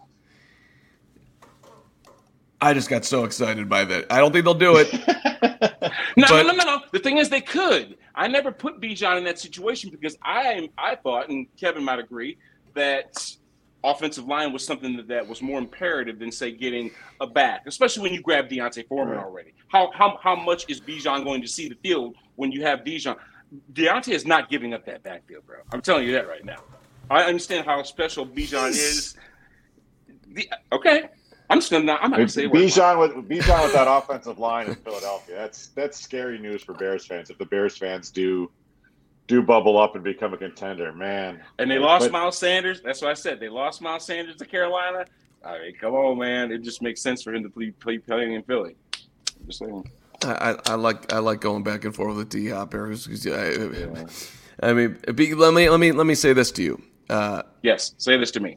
I just got so excited by that. I don't think they'll do it. No. The thing is, they could. I never put Bijan in that situation because I thought, and Kevin might agree, that offensive line was something that was more imperative than, say, getting a back, especially when you grab Deontay Foreman already. How much is Bijan going to see the field when you have Bijan? Deontay is not giving up that backfield, bro. I'm telling you that right now. I understand how special Bijan is. Okay. I'm not going to say Bijan with that offensive line in Philadelphia. That's scary news for Bears fans. If the Bears fans do bubble up and become a contender, man. And they lost Miles Sanders. That's what I said. They lost Miles Sanders to Carolina. I mean, come on, man. It just makes sense for him to play playing in Philly. I'm just saying. I like going back and forth with D-Hop here. I mean, let me say this to you. Yes, say this to me.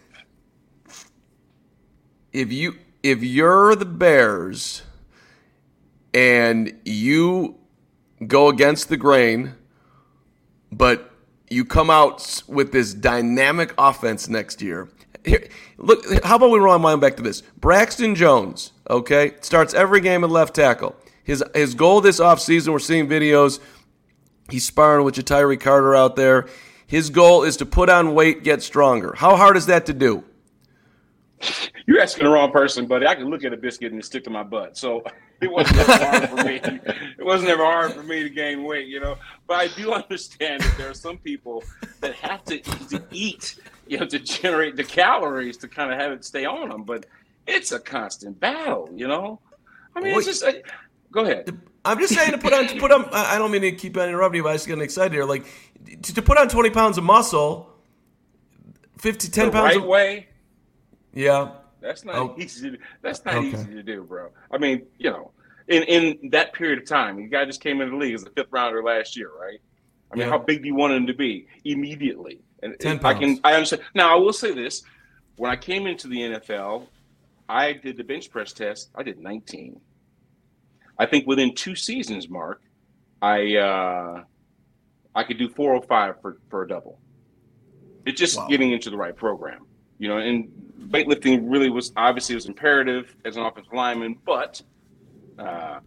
If you're the Bears and you go against the grain, but you come out with this dynamic offense next year. Here, look, how about we rewind back to this? Braxton Jones, okay, starts every game at left tackle. His goal this offseason, we're seeing videos, he's sparring with Ja'Tyre Carter out there. His goal is to put on weight, get stronger. How hard is that to do? You're asking the wrong person, buddy. I can look at a biscuit and stick to my butt. So it wasn't ever hard for me. It wasn't ever hard for me to gain weight, But I do understand that there are some people that have to eat, to generate the calories to kind of have it stay on them. But it's a constant battle, I mean, it's just go ahead. I'm just saying to put on. I don't mean to keep on interrupting you, but I just getting excited here. Like to put on 20 pounds of muscle, 10 pounds the right way. Yeah, that's not easy. That's not easy to do, bro. I mean, in that period of time, the guy just came into the league as a fifth rounder last year, right? I mean, how big do you want him to be immediately? And 10 pounds. I understand. Now, I will say this: when I came into the NFL, I did the bench press test. I did 19. I think within 2 seasons, Mark, I could do 405 for a double. It's just getting into the right program, and weightlifting really was imperative as an offensive lineman, but I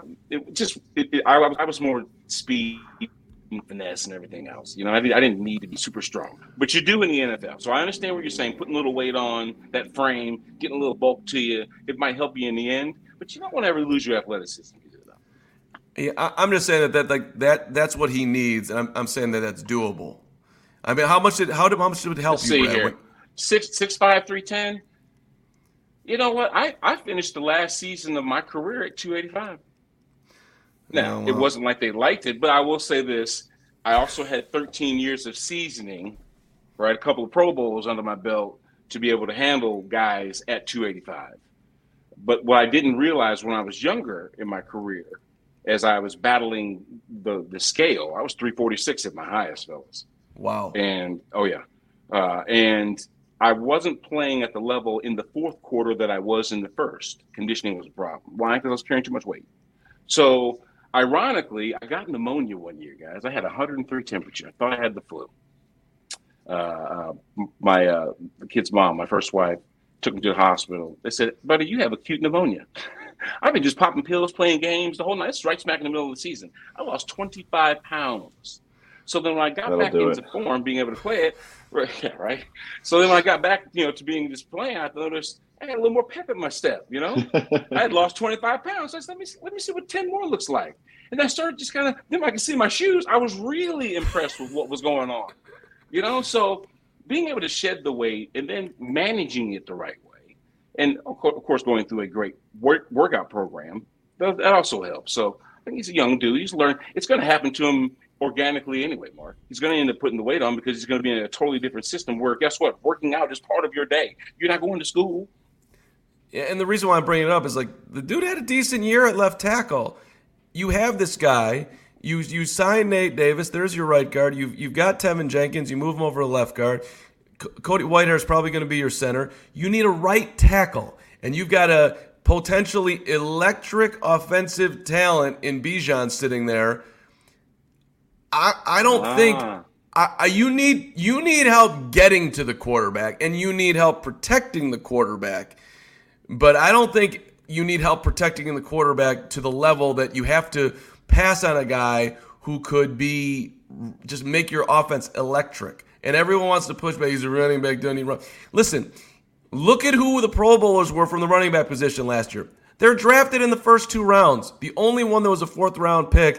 was more speed, finesse, and everything else. I didn't need to be super strong, but you do in the NFL. So I understand what you're saying. Putting a little weight on that frame, getting a little bulk to you, it might help you in the end, but you don't want to ever lose your athleticism. Yeah, I'm just saying that's what he needs, and I'm saying that's doable. I mean, how much did it help Let's you, see Brad? Here. 6'5", 310. You know what? I finished the last season of my career at 285. Now, it wasn't like they liked it, but I will say this. I also had 13 years of seasoning, right? A couple of Pro Bowls under my belt to be able to handle guys at 285. But what I didn't realize when I was younger in my career, as I was battling the scale, I was 346 at my highest, fellas. Wow. And, and I wasn't playing at the level in the fourth quarter that I was in the first. Conditioning was a problem. Why? Because I was carrying too much weight. So, ironically, I got pneumonia one year, guys. I had 103 temperature. I thought I had the flu. The kid's mom, my first wife, took me to the hospital. They said, buddy, you have acute pneumonia. I've been just popping pills, playing games the whole night. It's right smack in the middle of the season. I lost 25 pounds. So then when I got back into form, being able to play it, right? So then when I got back, to being just playing, I noticed I had a little more pep in my step, I had lost 25 pounds. So I said, let me see what 10 more looks like. And I started just kind of, then I could see my shoes. I was really impressed with what was going on, So being able to shed the weight and then managing it the right way. And of course, going through a great workout program, that also helps. So I think he's a young dude. He's learned. It's going to happen to him organically anyway, Mark. He's going to end up putting the weight on because he's going to be in a totally different system where, guess what? Working out is part of your day. You're not going to school. Yeah, and the reason why I'm bringing it up is the dude had a decent year at left tackle. You have this guy. You sign Nate Davis. There's your right guard. You've got Tevin Jenkins. You move him over to left guard. Cody Whitehair is probably going to be your center. You need a right tackle, and you've got a potentially electric offensive talent in Bijan sitting there. I don't think you need help getting to the quarterback, and you need help protecting the quarterback. But I don't think you need help protecting the quarterback to the level that you have to pass on a guy who could just make your offense electric. And everyone wants to push back. He's a running back, doesn't he run? Listen, look at who the Pro Bowlers were from the running back position last year. They're drafted in the first 2 rounds. The only one that was a 4th-round pick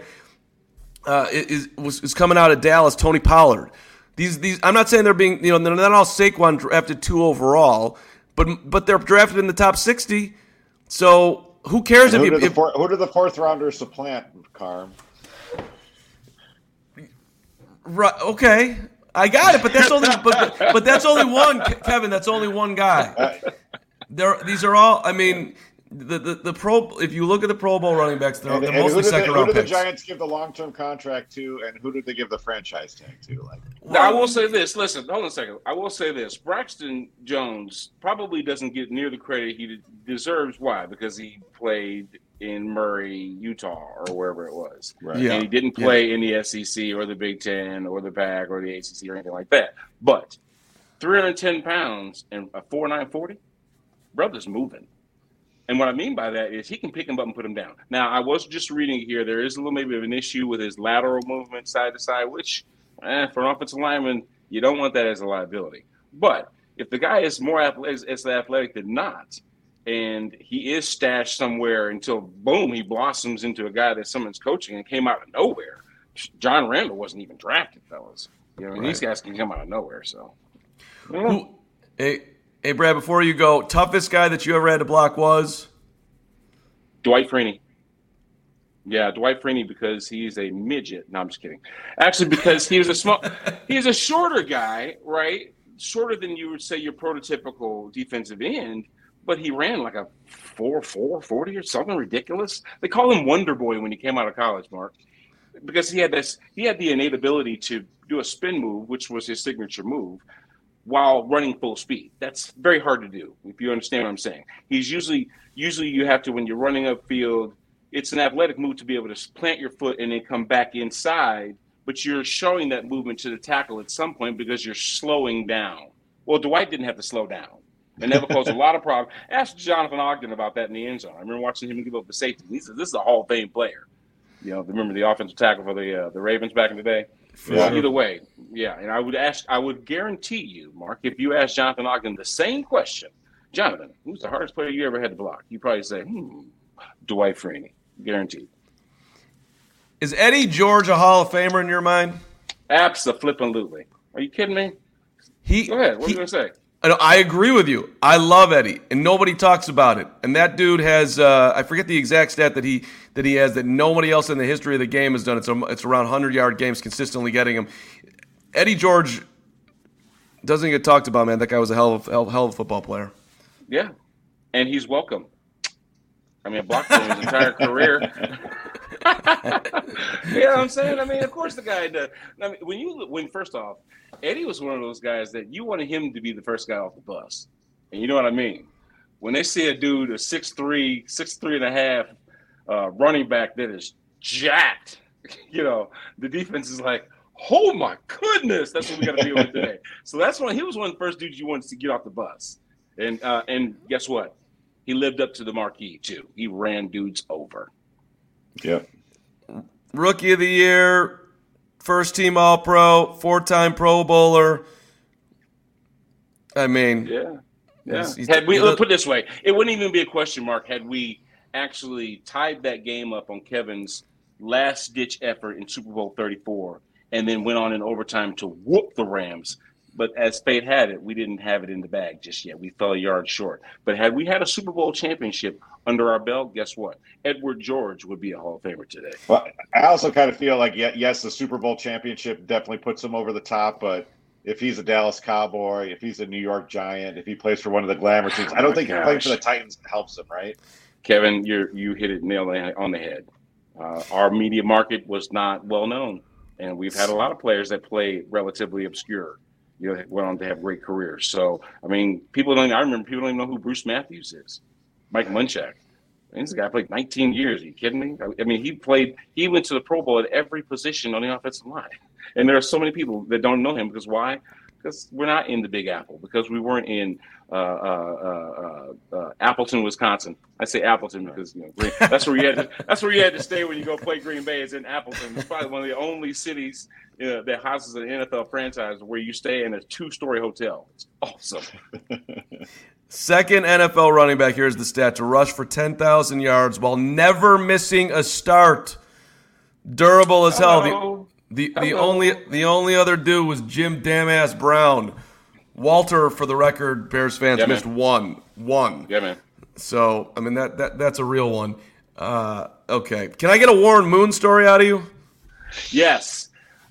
is coming out of Dallas, Tony Pollard. These I'm not saying they're being, they're not all Saquon drafted 2 overall, but they're drafted in the top 60. So who cares who did the 4th rounders supplant, Carm? Right. Okay. I got it, but that's only but that's only one, Kevin. That's only one guy. These are all. I mean, the Pro. If you look at the Pro Bowl running backs, they're mostly second-round picks. Who did the Giants give the long-term contract to, and who did they give the franchise tag to? Now, I will say this. Listen, hold on a second. I will say this. Braxton Jones probably doesn't get near the credit he deserves. Why? Because he played in Murray, Utah, or wherever it was. Right. Yeah. And he didn't play in the SEC or the Big Ten or the PAC or the ACC or anything like that. But 310 pounds and a 4.9 40, brother's moving. And what I mean by that is he can pick him up and put him down. Now, I was just reading here. There is a little maybe of an issue with his lateral movement side to side, which for an offensive lineman, you don't want that as a liability. But if the guy is more athletic than not, and he is stashed somewhere until, boom, he blossoms into a guy that someone's coaching and came out of nowhere. John Randall wasn't even drafted, fellas. Right. These guys can come out of nowhere. So, Hey, Brad, before you go, toughest guy that you ever had to block was? Dwight Freeney. Yeah, Dwight Freeney, because he's a midget. No, I'm just kidding. Actually, because he's a shorter guy, right? Shorter than you would say your prototypical defensive end. But he ran like a 4.4 40 or something ridiculous. They call him Wonder Boy when he came out of college, Mark, because he had the innate ability to do a spin move, which was his signature move, while running full speed. That's very hard to do, if you understand what I'm saying. He's usually you have to, when you're running upfield, it's an athletic move to be able to plant your foot and then come back inside, but you're showing that movement to the tackle at some point because you're slowing down. Well, Dwight didn't have to slow down. And never posed a lot of problems. Ask Jonathan Ogden about that in the end zone. I remember watching him give up the safety. He said, "This is a Hall of Fame player." Remember the offensive tackle for the Ravens back in the day. Yeah. Either way, yeah. And I would guarantee you, Mark, if you ask Jonathan Ogden the same question, Jonathan, who's the hardest player you ever had to block? You probably say, Dwight Freeney, guaranteed. Is Eddie George a Hall of Famer in your mind? Abso-flippin-lutely. Are you kidding me? Go ahead. What are you going to say? I agree with you. I love Eddie, and nobody talks about it. And that dude has I forget the exact stat that he has that nobody else in the history of the game has done. It's around 100-yard games consistently getting him. Eddie George doesn't get talked about, man. That guy was a hell of a football player. Yeah, and he's welcome. I mean, blocked for his entire career. You know what I'm saying? I mean, of course the guy does. I mean, when first off, Eddie was one of those guys that you wanted him to be the first guy off the bus. And you know what I mean? When they see a dude, a 6'3", and a half running back that is jacked, the defense is like, oh my goodness, that's what we got to deal with today. So he was one of the first dudes you wanted to get off the bus. And guess what? He lived up to the marquee too. He ran dudes over. Yep. Rookie of the year, first team All-Pro, 4-time Pro Bowler. I mean, yeah. Had we put it this way, it wouldn't even be a question mark had we actually tied that game up on Kevin's last-ditch effort in Super Bowl 34, and then went on in overtime to whoop the Rams. But as fate had it, we didn't have it in the bag just yet. We fell a yard short. But had we had a Super Bowl championship under our belt, guess what? Edward George would be a Hall of Famer today. Well, I also kind of feel like, yes, the Super Bowl championship definitely puts him over the top. But if he's a Dallas Cowboy, if he's a New York Giant, if he plays for one of the glamour teams, I don't think playing for the Titans helps him, right? Kevin, you hit it nail on the head. Our media market was not well known. And we've had a lot of players that play relatively obscure. Went on to have great careers. So, I mean, I remember people don't even know who Bruce Matthews is. Mike Munchak. This guy played 19 years. Are you kidding me? I mean, he went to the Pro Bowl at every position on the offensive line. And there are so many people that don't know him because why? Because we're not in the Big Apple, because we weren't in Appleton, Wisconsin. I say Appleton because that's where you had to stay when you go play Green Bay. Is in Appleton. It's probably one of the only cities that houses an NFL franchise where you stay in a 2-story hotel. It's awesome. Second NFL running back, here's the stat, to rush for 10,000 yards while never missing a start. Durable as hell. The only other dude was Jim Damn-Ass Brown. Walter, for the record, Bears fans, missed one. Yeah, man. So, I mean, that's a real one. Okay. Can I get a Warren Moon story out of you? Yes.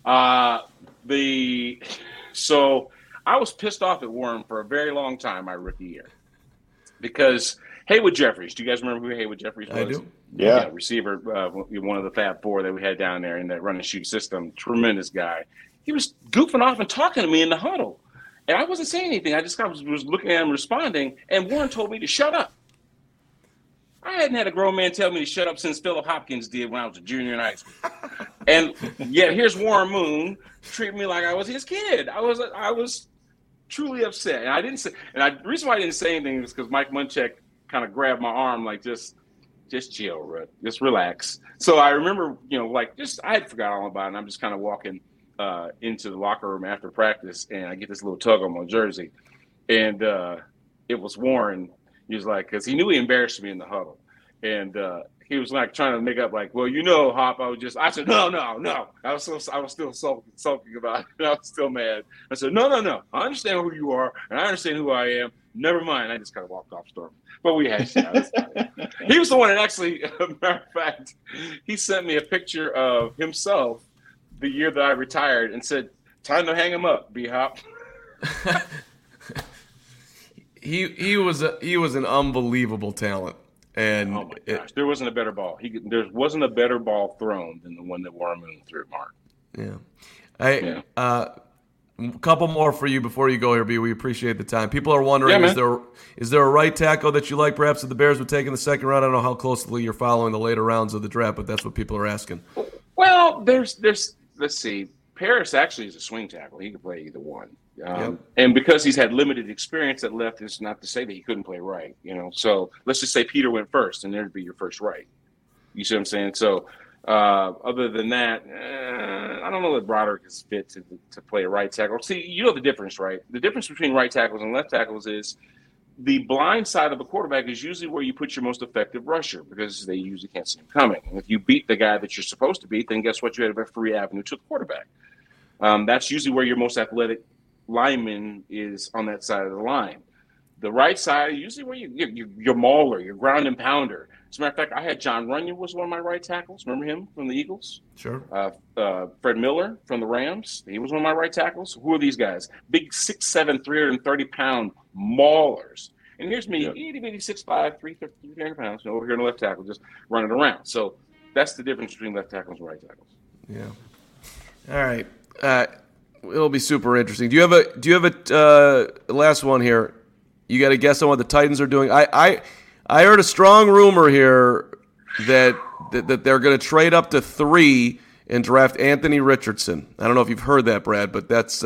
So I was pissed off at Warren for a very long time my rookie year because Haywood Jeffries. Do you guys remember who Haywood Jeffries was? I do. Yeah. Receiver, one of the Fab Four that we had down there in that run and shoot system. Tremendous guy. He was goofing off and talking to me in the huddle. And I wasn't saying anything. I just kind of was looking at him responding, and Warren told me to shut up. I hadn't had a grown man tell me to shut up since Philip Hopkins did when I was a junior in high school. And yet here's Warren Moon treating me like I was his kid. I was truly upset. And I didn't say, the reason why I didn't say anything is because Mike Munchak kind of grabbed my arm like, just chill, Rutt. Just relax. So I remember, I had forgot all about it. And I'm just kind of walking into the locker room after practice, and I get this little tug on my jersey. And it was Warren. He was like, because he knew he embarrassed me in the huddle. And he was like trying to make up like, well, Hop, I said, no. I was still sulking about it. I was still mad. I said, no. I understand who you are, and I understand who I am. Never mind. I just kind of walked off storming. But we hashed it out. He was the one that actually, matter of fact, he sent me a picture of himself the year that I retired and said, time to hang him up, B-Hop. He was an unbelievable talent. And oh my gosh, there wasn't a better ball. There wasn't a better ball thrown than the one that Warren Moon threw, Mark. Yeah. A couple more for you before you go here, B. We appreciate the time. People are wondering, is there a right tackle that you like perhaps that the Bears would take in the second round? I don't know how closely you're following the later rounds of the draft, but that's what people are asking. Well, there's let's see. Paris actually is a swing tackle. He can play either one. And because he's had limited experience at left, it's not to say that he couldn't play right. So let's just say Peter went first, and there'd be your first right. You see what I'm saying? So other than that, I don't know that Broderick is fit to play a right tackle. See, you know the difference, right? The difference between right tackles and left tackles is the blind side of a quarterback is usually where you put your most effective rusher because they usually can't see him coming. And if you beat the guy that you're supposed to beat, then guess what? You have a free avenue to the quarterback. That's usually where your most athletic lineman is on that side of the line. The right side, usually where your mauler, your ground and pounder. As a matter of fact, I had John Runyon was one of my right tackles. Remember him from the Eagles? Sure. Fred Miller from the Rams. He was one of my right tackles. Who are these guys? Big 6'7", 330-pound maulers. And here's me, itty bitty 6'5", 300 pounds, over here in the left tackle, just running around. So that's the difference between left tackles and right tackles. Yeah. All right. It'll be super interesting. Do you have a last one here? You got to guess on what the Titans are doing. I heard a strong rumor here that they're going to trade up to 3 and draft Anthony Richardson. I don't know if you've heard that, Brad, but that's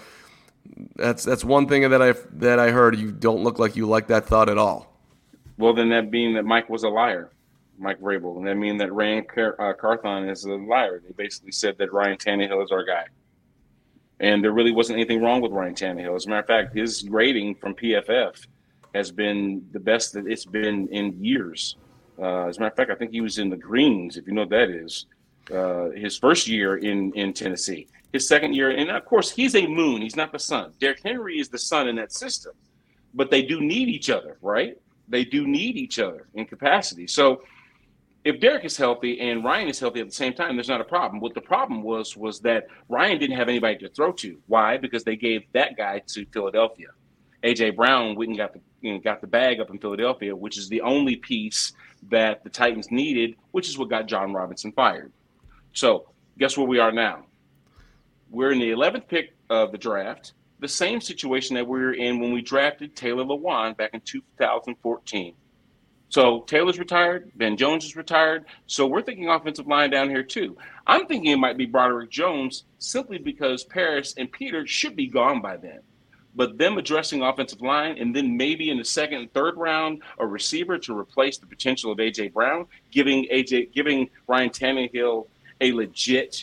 one thing that I heard. You don't look like you like that thought at all. Well, then that mean that Mike was a liar, Mike Vrabel, and that mean that Rand Carthon is a liar. They basically said that Ryan Tannehill is our guy. And there really wasn't anything wrong with Ryan Tannehill. As a matter of fact, his rating from PFF has been the best that it's been in years. As a matter of fact, I think he was in the greens, if you know what that is, his first year in Tennessee. His second year, and of course, he's a moon. He's not the sun. Derrick Henry is the sun in that system. But they do need each other, right? They do need each other in capacity. So if Derrick is healthy and Ryan is healthy at the same time, there's not a problem. What the problem was that Ryan didn't have anybody to throw to. Why? Because they gave that guy to Philadelphia. A.J. Brown went and got the bag up in Philadelphia, which is the only piece that the Titans needed, which is what got John Robinson fired. So guess where we are now? We're in the 11th pick of the draft, the same situation that we were in when we drafted Taylor Lewan back in 2014. So Taylor's retired, Ben Jones is retired, so we're thinking offensive line down here too. I'm thinking it might be Broderick Jones simply because Paris and Peter should be gone by then. But them addressing offensive line and then maybe in the second and third round a receiver to replace the potential of A.J. Brown, giving Ryan Tannehill a legit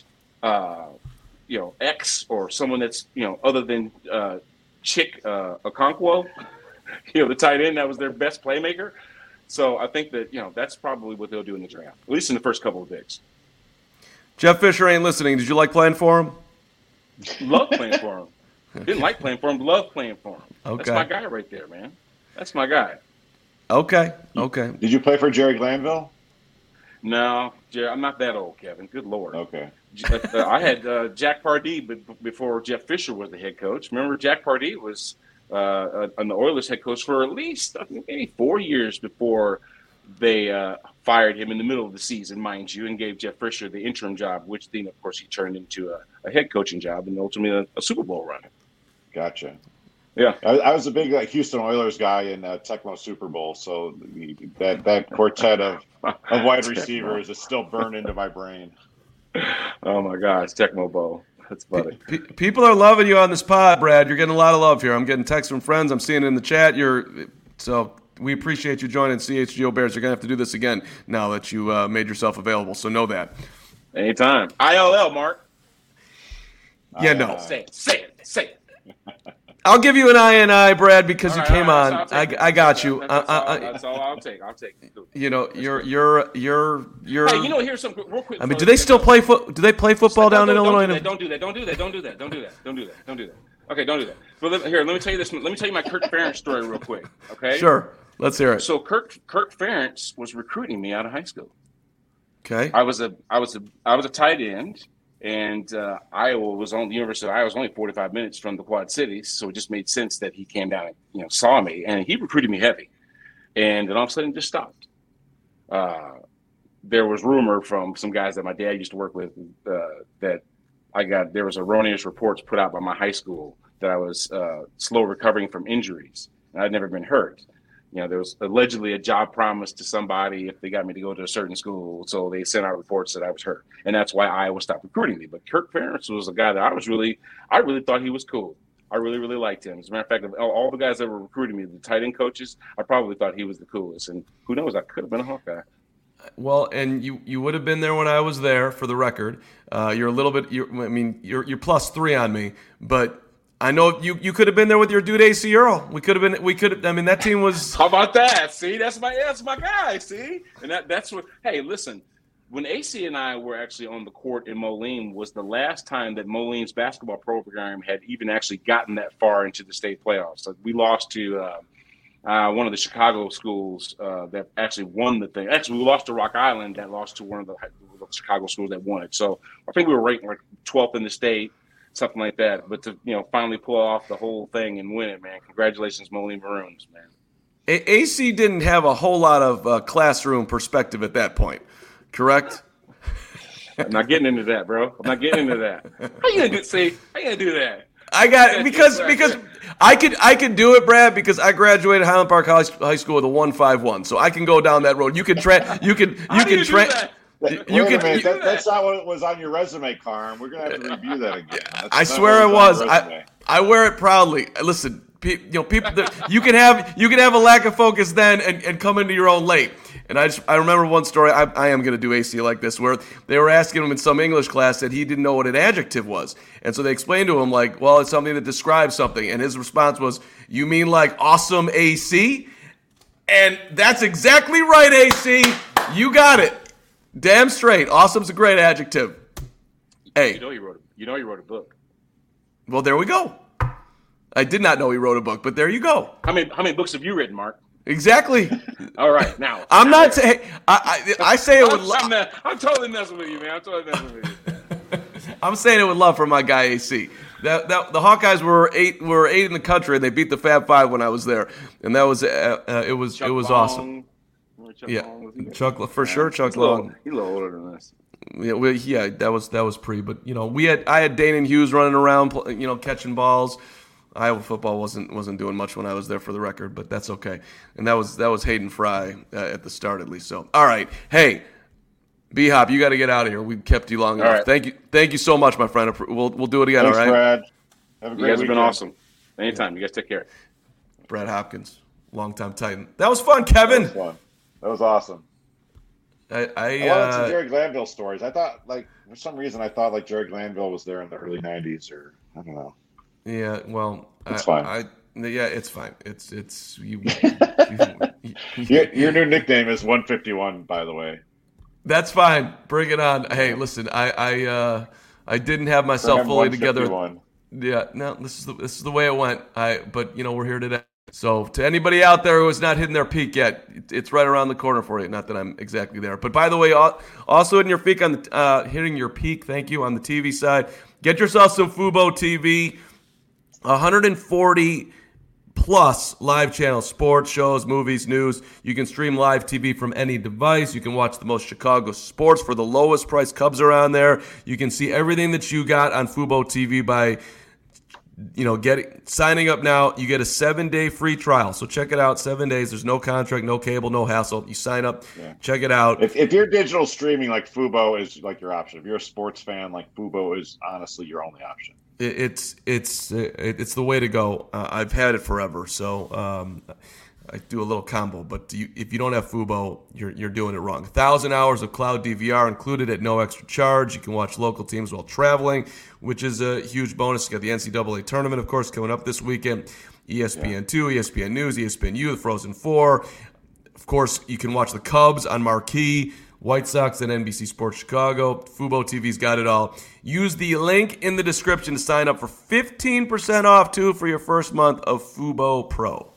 X or someone that's other than Chick Okonkwo, the tight end that was their best playmaker. So I think that, that's probably what they'll do in the draft, at least in the first couple of picks. Jeff Fisher ain't listening. Did you like playing for him? Love playing for him. Didn't like playing for him, love playing for him. Okay. That's my guy right there, man. That's my guy. Okay. Did you play for Jerry Glanville? No, Jerry, I'm not that old, Kevin. Good Lord. Okay. I had Jack Pardee before Jeff Fisher was the head coach. Remember, Jack Pardee was an Oilers head coach for at least maybe 4 years before they fired him in the middle of the season, mind you, and gave Jeff Fisher the interim job, which then, of course, he turned into a head coaching job and ultimately a Super Bowl run. Gotcha. Yeah. I was a big Houston Oilers guy in Tecmo Super Bowl, so that quartet of wide receivers is still burned into my brain. Oh, my gosh, Tecmo Bowl. That's funny. People are loving you on this pod, Brad. You're getting a lot of love here. I'm getting texts from friends. I'm seeing it in the chat. So we appreciate you joining CHGO Bears. You're going to have to do this again now that you made yourself available, so know that. Anytime. ILL, Mark. Yeah, no. Say it. I'll give you an INI, Brad, because you came on. I got you. That's all I'll take. You're. Hey, here's some real quick. I mean, do they still play Do they play football down in Illinois? Don't do that. Okay, don't do that. But let me tell you this. Let me tell you my Kirk Ferentz story real quick. Okay. Sure. Let's hear it. So Kirk Ferentz was recruiting me out of high school. Okay. I was a tight end. And Iowa was on the University of Iowa was only 45 minutes from the Quad Cities, so it just made sense that he came down and saw me, and he recruited me heavy, and then all of a sudden it just stopped. There was rumor from some guys that my dad used to work with that there was erroneous reports put out by my high school that I was slow recovering from injuries, and I'd never been hurt. There was allegedly a job promise to somebody if they got me to go to a certain school. So they sent out reports that I was hurt. And that's why Iowa stopped recruiting me. But Kirk Ferentz was a guy that I really thought he was cool. I really, really liked him. As a matter of fact, of all the guys that were recruiting me, the tight end coaches, I probably thought he was the coolest. And who knows, I could have been a Hawkeye. Well, and you would have been there when I was there, for the record. You're a little bit, you're +3 on me, but I know you could have been there with your dude AC Earl. I mean, that team was. How about that? See, that's my guy. See, and that's what. Hey, listen, when AC and I were actually on the court in Moline was the last time that Moline's basketball program had even actually gotten that far into the state playoffs. So we lost to one of the Chicago schools that actually won the thing. Actually, we lost to Rock Island that lost to one of the Chicago schools that won it. So I think we were ranked like 12th in the state, something like that. But to finally pull off the whole thing and win it, man, congratulations, Moline Maroons, man. AC didn't have a whole lot of classroom perspective at that point, correct? I'm not getting into that, bro. I'm not getting into that. How you gonna do that? I got because I could do it, Brad, because I graduated Highland Park High School with a 1.51, so I can go down that road. You can Wait a minute. That's not what was on your resume, Carm. We're gonna have to review that again. I swear it was. I wear it proudly. Listen, people. You can have a lack of focus then and come into your own late. And I remember one story. I am going to do AC like this, where they were asking him in some English class that he didn't know what an adjective was, and so they explained to him like, well, it's something that describes something, and his response was, "You mean like awesome AC?" And that's exactly right, AC. You got it. Damn straight. Awesome's a great adjective. Hey. You know he wrote a book. Well, there we go. I did not know he wrote a book, but there you go. How many books have you written, Mark? Exactly. All right, now. I'm not saying. I say it with love. I'm totally messing with you, man. I'm saying it with love for my guy AC. The Hawkeyes were eight in the country, and they beat the Fab Five when I was there, and that was it was awesome. Yeah, Chuck for sure. Chuck Long. He's a little older than us. Yeah, that was pre. But I had Dane and Hughes running around, catching balls. Iowa football wasn't doing much when I was there, for the record, but that's okay. And that was Hayden Fry at the start, at least. So, all right, hey, B-Hop, you got to get out of here. We've kept you long enough. Right. Thank you so much, my friend. We'll do it again. Thanks, all right, Brad. Have a great You guys have been weekend. awesome. Anytime. You guys take care. Brad Hopkins, longtime Titan. That was fun, Kevin. That was fun. That was awesome. I wanted some Jerry Glanville stories. I thought, for some reason, Jerry Glanville was there in the early '90s, or I don't know. Yeah, well, it's fine. It's fine. It's you. Your new nickname is 151, by the way. That's fine. Bring it on. Hey, listen, I didn't have myself fully together. Yeah, no, this is the way it went. But we're here today. So to anybody out there who has not hidden their peak yet, it's right around the corner for you. Not that I'm exactly there, but by the way, also hitting your peak hitting your peak. Thank you on the TV side. Get yourself some Fubo TV. 140 plus live channels, sports, shows, movies, news. You can stream live TV from any device. You can watch the most Chicago sports for the lowest price. Cubs are on there. You can see everything that you got on Fubo TV by signing up now. You get a 7-day free trial. So check it out. 7 days. There's no contract, no cable, no hassle. You sign up, check it out. If you're digital streaming, Fubo is your option. If you're a sports fan, Fubo is honestly your only option. It's the way to go. I've had it forever, so I do a little combo. But if you don't have Fubo, you're doing it wrong. 1,000 hours of cloud DVR included at no extra charge. You can watch local teams while traveling, which is a huge bonus. You got the NCAA tournament, of course, coming up this weekend. ESPN2, ESPN News, ESPNU, the Frozen Four. Of course, you can watch the Cubs on Marquee, White Sox, and NBC Sports Chicago. Fubo TV's got it all. Use the link in the description to sign up for 15% off, too, for your first month of Fubo Pro.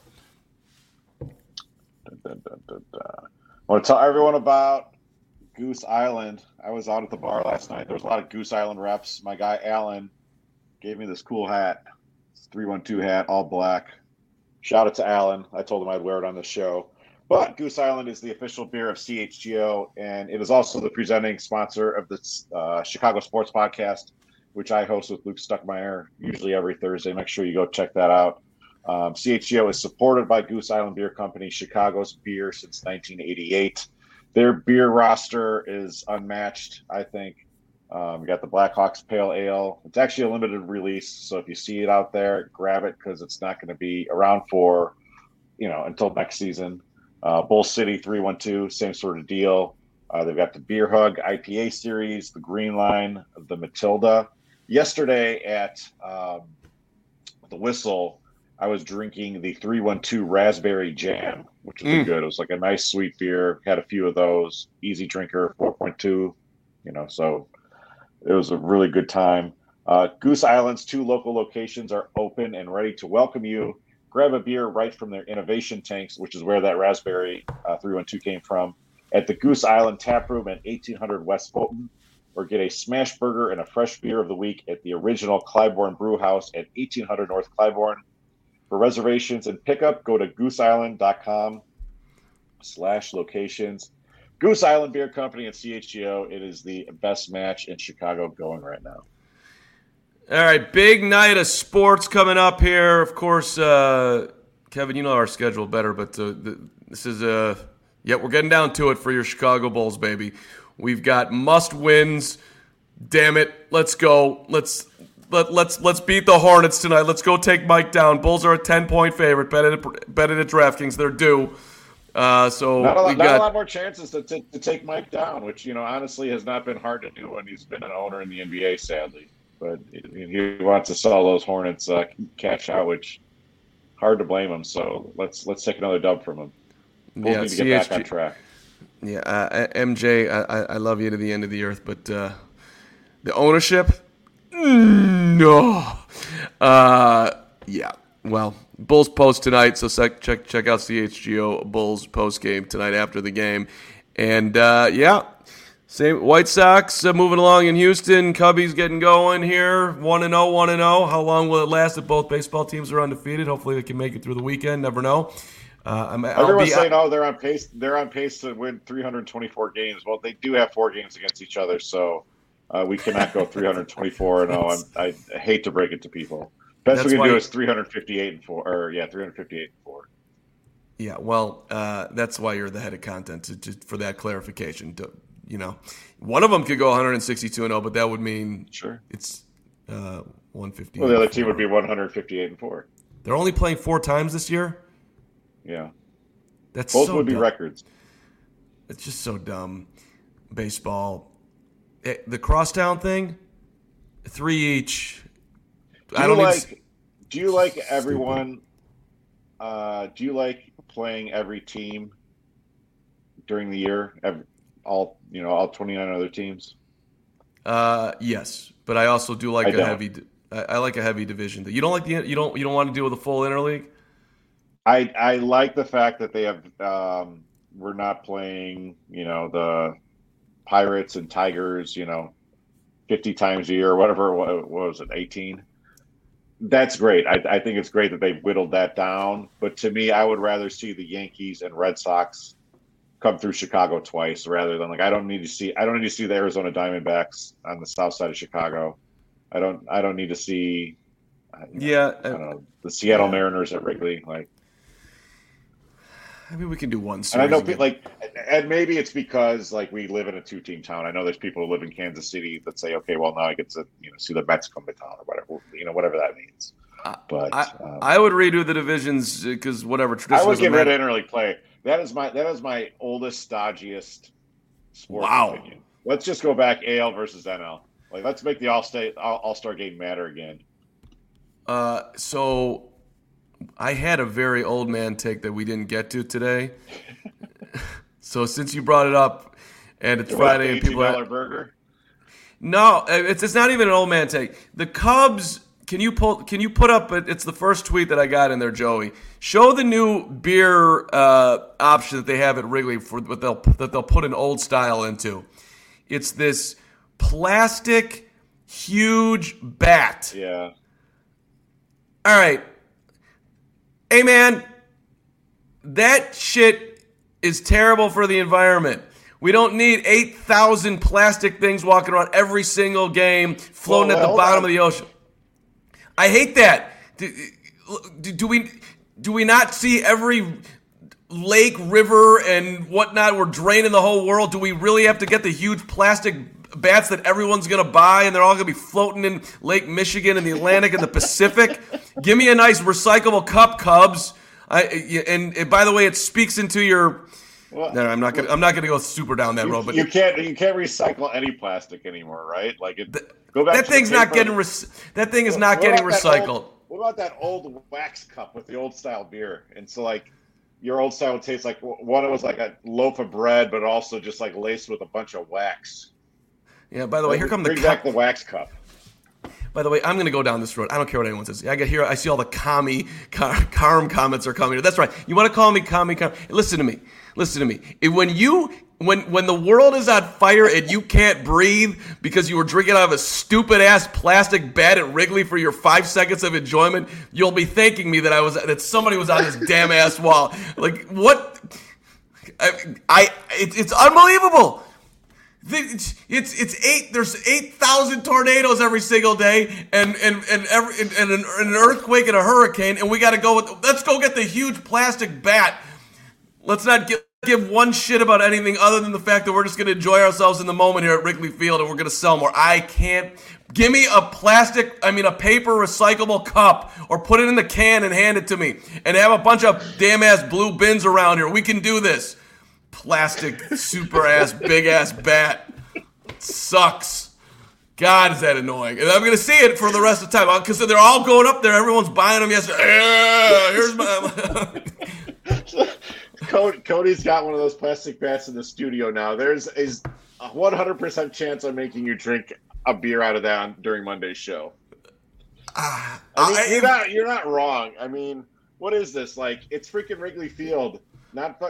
I want to tell everyone about Goose Island. I was out at the bar last night. There was a lot of Goose Island reps. My guy, Alan, gave me this cool hat. It's a 312 hat, all black. Shout out to Alan. I told him I'd wear it on the show. But Goose Island is the official beer of CHGO, and it is also the presenting sponsor of the Chicago Sports Podcast, which I host with Luke Stuckmeyer usually every Thursday. Make sure you go check that out. CHGO is supported by Goose Island Beer Company, Chicago's beer since 1988. Their beer roster is unmatched, I think. We got the Blackhawks Pale Ale. It's actually a limited release, so if you see it out there, grab it because it's not going to be around for, until next season. Bull City 312, same sort of deal. They've got the Beer Hug IPA series, the Green Line, the Matilda. Yesterday at the Whistle, I was drinking the 312 Raspberry Jam, which was good. It was like a nice sweet beer. Had a few of those. Easy drinker, 4.2. So it was a really good time. Goose Island's 2 local locations are open and ready to welcome you. Grab a beer right from their innovation tanks, which is where that Raspberry 312 came from, at the Goose Island Tap Room at 1800 West Fulton, or get a smash burger and a fresh beer of the week at the original Clybourne Brew House at 1800 North Clybourne. For reservations and pickup, go to gooseisland.com/locations. Goose Island Beer Company and CHGO. It is the best match in Chicago going right now. All right, big night of sports coming up here. Of course, Kevin, you know our schedule better, but this is we're getting down to it for your Chicago Bulls, baby. We've got must wins. Damn it, let's go. Let's beat the Hornets tonight. Let's go take Mike down. Bulls are a 10-point favorite. Bet it at DraftKings. They're due. So not a lot more chances to take Mike down, which honestly has not been hard to do when he's been an owner in the NBA, sadly. But he wants to sell those Hornets cash out, which hard to blame him. So let's take another dub from him. Bulls need to get back on track. Yeah, MJ, I love you to the end of the earth, but the ownership, no. Yeah. Well, Bulls post tonight, so check out CHGO Bulls post game tonight after the game, and same White Sox moving along in Houston. Cubbies getting going here, 1-0, 1-0. How long will it last if both baseball teams are undefeated? Hopefully they can make it through the weekend. Never know. Everyone's saying, they're on pace. They're on pace to win 324 games. Well, they do have 4 games against each other, so we cannot go 324-0. I hate to break it to people. Best we can do is 358-4, 358-4. Yeah, well, that's why you're the head of content for that clarification. One of them could go 162-0, but that would mean it's 150. Well, the other team would be 158-4. They're only playing 4 times this year. Yeah, that's both so would be dumb. records. It's just so dumb. Baseball, the crosstown thing, 3 each. Do you like everyone? Do you like playing every team during the year? All 29 other teams. Yes, but I also do like I like a heavy division. You don't like you don't want to deal with a full interleague. I like the fact that they have we're not playing the Pirates and Tigers 50 times a year or whatever. What was it, 18? That's great. I think it's great that they've whittled that down. But to me, I would rather see the Yankees and Red Sox come through Chicago twice rather than I don't need to see the Arizona Diamondbacks on the south side of Chicago. I don't need to see the Seattle Mariners at Wrigley. I mean, we can do one series. And I know, and maybe it's because we live in a 2-team town. I know there's people who live in Kansas City that say, okay, well now I get to see the Mets come to town or whatever, whatever that means. But I would redo the divisions because whatever tradition. I would get rid of interleague play. That is my oldest, stodgiest sports opinion. Let's just go back AL versus NL. Let's make the All-Star game matter again. So I had a very old man take that we didn't get to today. So since you brought it up, and it's Friday, and people $18 burger. No, it's not even an old man take. The Cubs. Can you put up? It's the first tweet that I got in there, Joey. Show the new beer option that they have at Wrigley that they'll put an old style into. It's this plastic huge bat. Yeah. All right. Hey, man, that shit is terrible for the environment. We don't need 8,000 plastic things walking around every single game, floating at the bottom of the ocean. I hate that. Do we not see every lake, river, and whatnot? We're draining the whole world. Do we really have to get the huge plastic bats that everyone's going to buy, and they're all going to be floating in Lake Michigan and the Atlantic and the Pacific? Give me a nice recyclable cup, Cubs. And by the way, it speaks into your. Well, no, I'm not gonna go super down that road. But you can't recycle any plastic anymore, right? Go back. That thing's not getting. That thing is not getting recycled. what about that old wax cup with the old style beer? And so like your old style would taste like one. It was like a loaf of bread, but also just like laced with a bunch of wax. Yeah. By the way, here come the bring back the wax cup. By the way, I'm going to go down this road. I don't care what anyone says. I get here. I see all the Carm comments are coming. That's right. You want to call me Carm? Listen to me. When the world is on fire and you can't breathe because you were drinking out of a stupid ass plastic bat at Wrigley for your 5 seconds of enjoyment, you'll be thanking me that somebody was on this damn ass wall. Like what? It's unbelievable. There's 8,000 tornadoes every single day and an earthquake and a hurricane, and we got to let's go get the huge plastic bat. Let's not give one shit about anything other than the fact that we're just going to enjoy ourselves in the moment here at Wrigley Field, and we're going to sell more. I can't. Give me a paper recyclable cup, or put it in the can and hand it to me, and have a bunch of damn ass blue bins around here. We can do this. Plastic super ass big ass bat sucks. God, is that annoying? And I'm gonna see it for the rest of the time because they're all going up there. Everyone's buying them yesterday. Here's my. Cody's got one of those plastic bats in the studio now. There's a 100% chance of making you drink a beer out of that during Monday's show. You're not wrong. I mean, what is this? Like, it's freaking Wrigley Field. Not.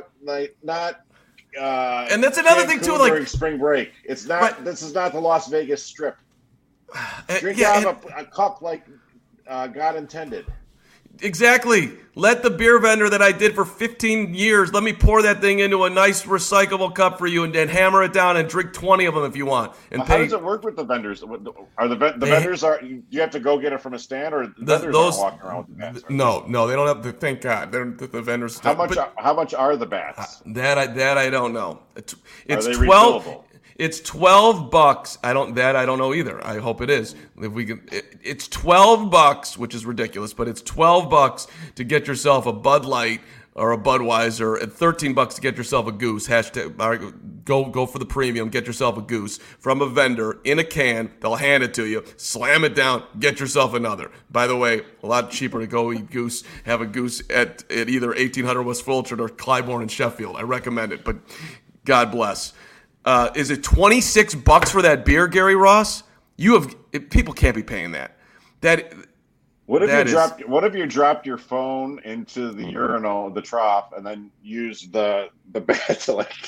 And that's another thing too. Like during spring break, it's not. Right. This is not the Las Vegas Strip. Drink out of a cup like God intended. Exactly. Let the beer vendor that I did for 15 years, let me pour that thing into a nice recyclable cup for you and hammer it down and drink 20 of them if you want. And how does it work with the vendors? Are the vendors you have to go get it from a stand, or the vendors aren't walking around with the bats? No, they don't have to. Thank God, the vendors. How much are the bats? That I don't know. It's are they 12. Refillable? It's $12. I don't know either. I hope it is. If we can, it's $12, which is ridiculous, but it's $12 to get yourself a Bud Light or a Budweiser, and $13 to get yourself a Goose. Go for the premium. Get yourself a Goose from a vendor in a can. They'll hand it to you. Slam it down. Get yourself another. By the way, a lot cheaper to go eat Goose. Have a Goose at either 1800 West Fulton or Clybourne and Sheffield. I recommend it, but God bless. Is it $26 for that beer, Gary Ross? People can't be paying that. What if you dropped your phone into the urinal, the trough, and then used the bat to like?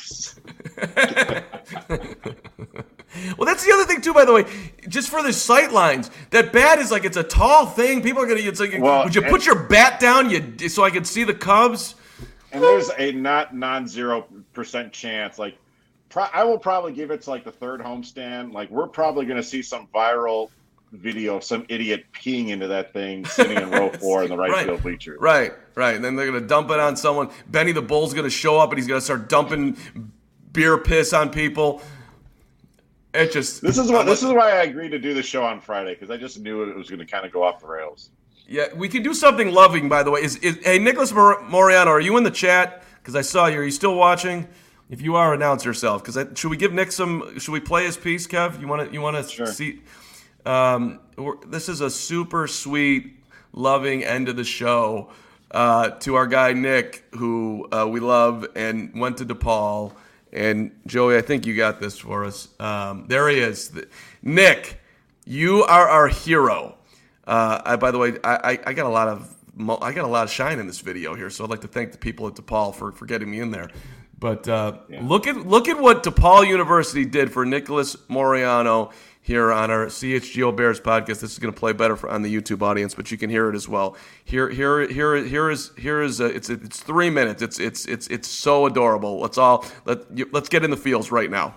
Well, that's the other thing too. By the way, just for the sight lines, that bat is like it's a tall thing. People are gonna. It's like, would you put your bat down? So I could see the Cubs. And there's a non-0% chance. Like, I will probably give it to like the third homestand. Like, we're probably going to see some viral video of some idiot peeing into that thing sitting in row 4 in the right field bleachers. Right. And then they're going to dump it on someone. Benny the Bull's going to show up and he's going to start dumping beer piss on people. This is why I agreed to do the show on Friday, because I just knew it was going to kind of go off the rails. Yeah, we can do something loving, by the way. Hey, Nicholas Moriano, are you in the chat? Because I saw you. Are you still watching? If you are, announce yourself. Because should we give Nick some? Should we play his piece, Kev? You want to sure. See? This is a super sweet, loving end of the show to our guy Nick, who we love and went to DePaul. And Joey, I think you got this for us. There he is, Nick. You are our hero. By the way, I got a lot of shine in this video here, so I'd like to thank the people at DePaul for getting me in there. But look at what DePaul University did for Nicholas Moriano here on our CHGO Bears podcast. This is going to play better on the YouTube audience, but you can hear it as well. Here is it's 3 minutes. It's so adorable. Let's get in the feels right now.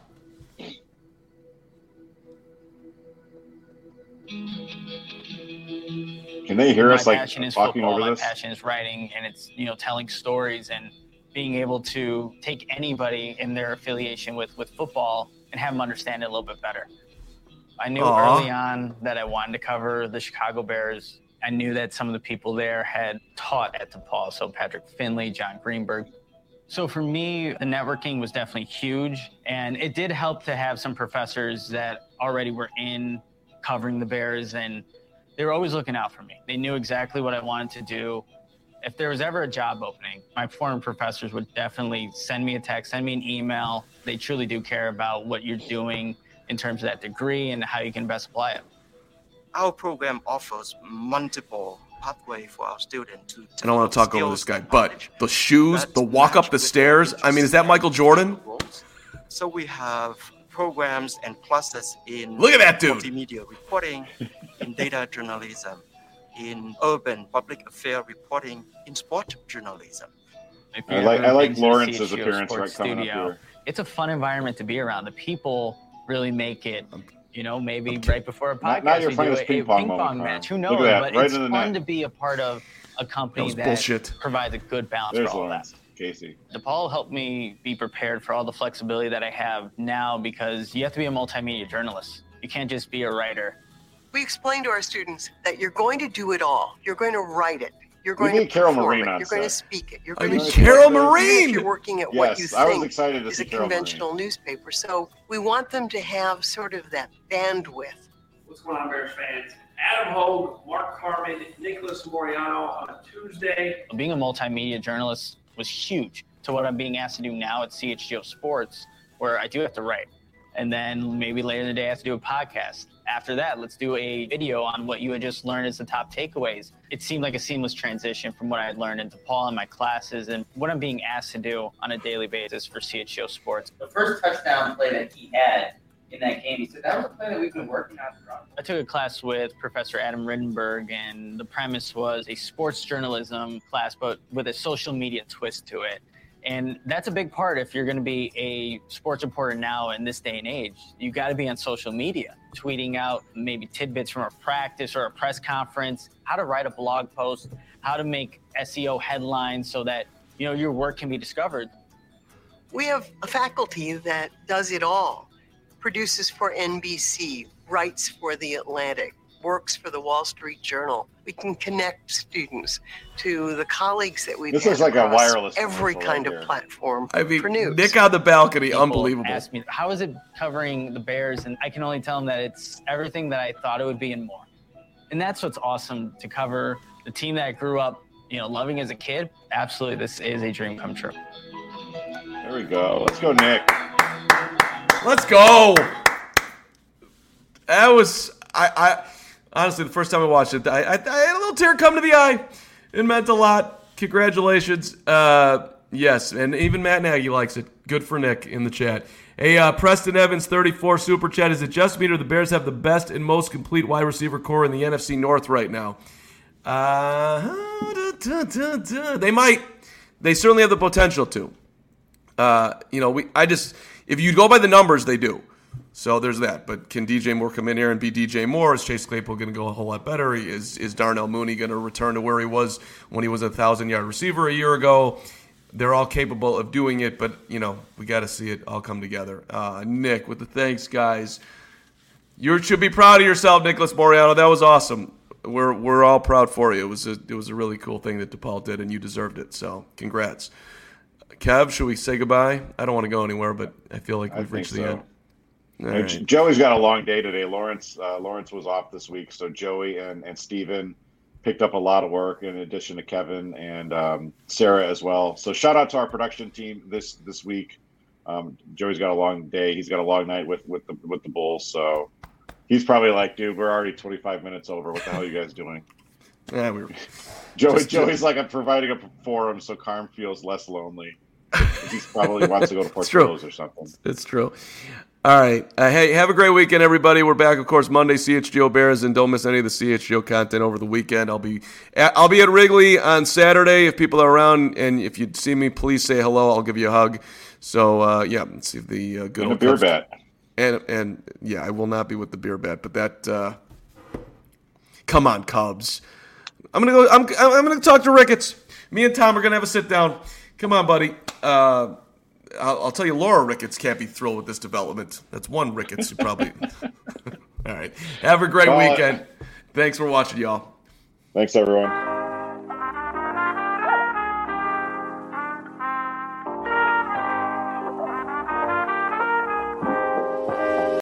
Can they hear us like talking over this? My passion is writing, and it's telling stories and being able to take anybody in their affiliation with football and have them understand it a little bit better. I knew early on that I wanted to cover the Chicago Bears. I knew that some of the people there had taught at DePaul, so Patrick Finley, John Greenberg. So for me, the networking was definitely huge, and it did help to have some professors that already were in covering the Bears and they were always looking out for me. They knew exactly what I wanted to do. If there was ever a job opening, my former professors would definitely send me a text, send me an email. They truly do care about what you're doing in terms of that degree and how you can best apply it. Our program offers multiple pathways for our students to I don't want to talk over this guy, but the shoes, the walk up the stairs, I mean, is that Michael Jordan? So we have programs and classes in Look at that dude. multimedia reporting, in data journalism, in urban public affair reporting, in sport journalism. I like Lawrence's appearance coming up here. It's a fun environment to be around. The people really make it. Maybe right before a podcast, not your we do funniest a ping pong match. Who Look knows? at that, But right it's in the fun net. to be a part of a company that bullshit. provides a good balance There's for all Lawrence, that. Casey. DePaul helped me be prepared for all the flexibility that I have now, because you have to be a multimedia journalist. You can't just be a writer. We explain to our students that you're going to do it all. You're going to write it. You're We going to need Carol perform Marine it. on You're going to set. speak it. You're I going mean, to Carol even Marine! if you're working at what you Yes, I was think excited to is see a Carol Marine. conventional newspaper. So we want them to have sort of that bandwidth. What's going on, Bears fans? Adam Hogue, Mark Carman, Nicholas Moriano on a Tuesday. Being a multimedia journalist was huge to what I'm being asked to do now at CHGO Sports, where I do have to write. And then maybe later in the day, I have to do a podcast. After that, let's do a video on what you had just learned as the top takeaways. It seemed like a seamless transition from what I had learned in DePaul and my classes and what I'm being asked to do on a daily basis for CHGO Sports. The first touchdown play that he had in that game, he said, that was a play that we've been working on throughout. I took a class with Professor Adam Rittenberg, and the premise was a sports journalism class, but with a social media twist to it. And that's a big part if you're going to be a sports reporter now in this day and age. You got to be on social media, tweeting out maybe tidbits from a practice or a press conference, how to write a blog post, how to make SEO headlines so that your work can be discovered. We have a faculty that does it all. Produces for NBC, writes for The Atlantic, works for the Wall Street Journal. We can connect students to the colleagues that we've This had is like a across wireless every commercial kind right of here. platform I mean, for news. Nick on the balcony, People unbelievable. ask me, how is it covering the Bears? And I can only tell them that it's everything that I thought it would be and more. And that's what's awesome, to cover the team that I grew up, loving as a kid. Absolutely, this is a dream come true. There we go. Let's go, Nick. Let's go. That was I honestly, the first time I watched it, I had a little tear come to the eye. It meant a lot. Congratulations. Yes, and even Matt Nagy likes it. Good for Nick in the chat. Hey, Preston Evans, 34 super chat. Is it just me or the Bears have the best and most complete wide receiver core in the NFC North right now? They might. They certainly have the potential to. If you go by the numbers, they do. So there's that. But can DJ Moore come in here and be DJ Moore? Is Chase Claypool going to go a whole lot better? Is Darnell Mooney going to return to where he was when he was a 1,000-yard receiver a year ago? They're all capable of doing it, but, we got to see it all come together. Nick, with the thanks, guys. You should be proud of yourself, Nicholas Moriano. That was awesome. We're all proud for you. It was a really cool thing that DePaul did, and you deserved it. So congrats. Kev, should we say goodbye? I don't want to go anywhere, but I feel like we've reached the end. All right. Joey's got a long day today. Lawrence was off this week, so Joey and Steven picked up a lot of work in addition to Kevin and Sarah as well. So shout out to our production team this week. Joey's got a long day. He's got a long night with the Bulls, so he's probably like, dude, we're already 25 minutes over. What the hell are you guys doing? Yeah, Joey's like, I'm providing a forum so Carm feels less lonely. He probably wants to go to Portillo's or something. It's true. All right. Hey, have a great weekend, everybody. We're back, of course, Monday, CHGO Bears, and don't miss any of the CHGO content over the weekend. I'll be at Wrigley on Saturday if people are around, and if you see me, please say hello. I'll give you a hug. So, let's see the good and old a beer Cubs. bat. And yeah, I will not be with the beer bat, but that. Come on, Cubs. I'm gonna talk to Ricketts. Me and Tom are gonna have a sit down. Come on, buddy. I'll tell you, Laura Ricketts can't be thrilled with this development. That's one Ricketts who probably. All right. Have a great weekend. Thanks for watching, y'all. Thanks, everyone.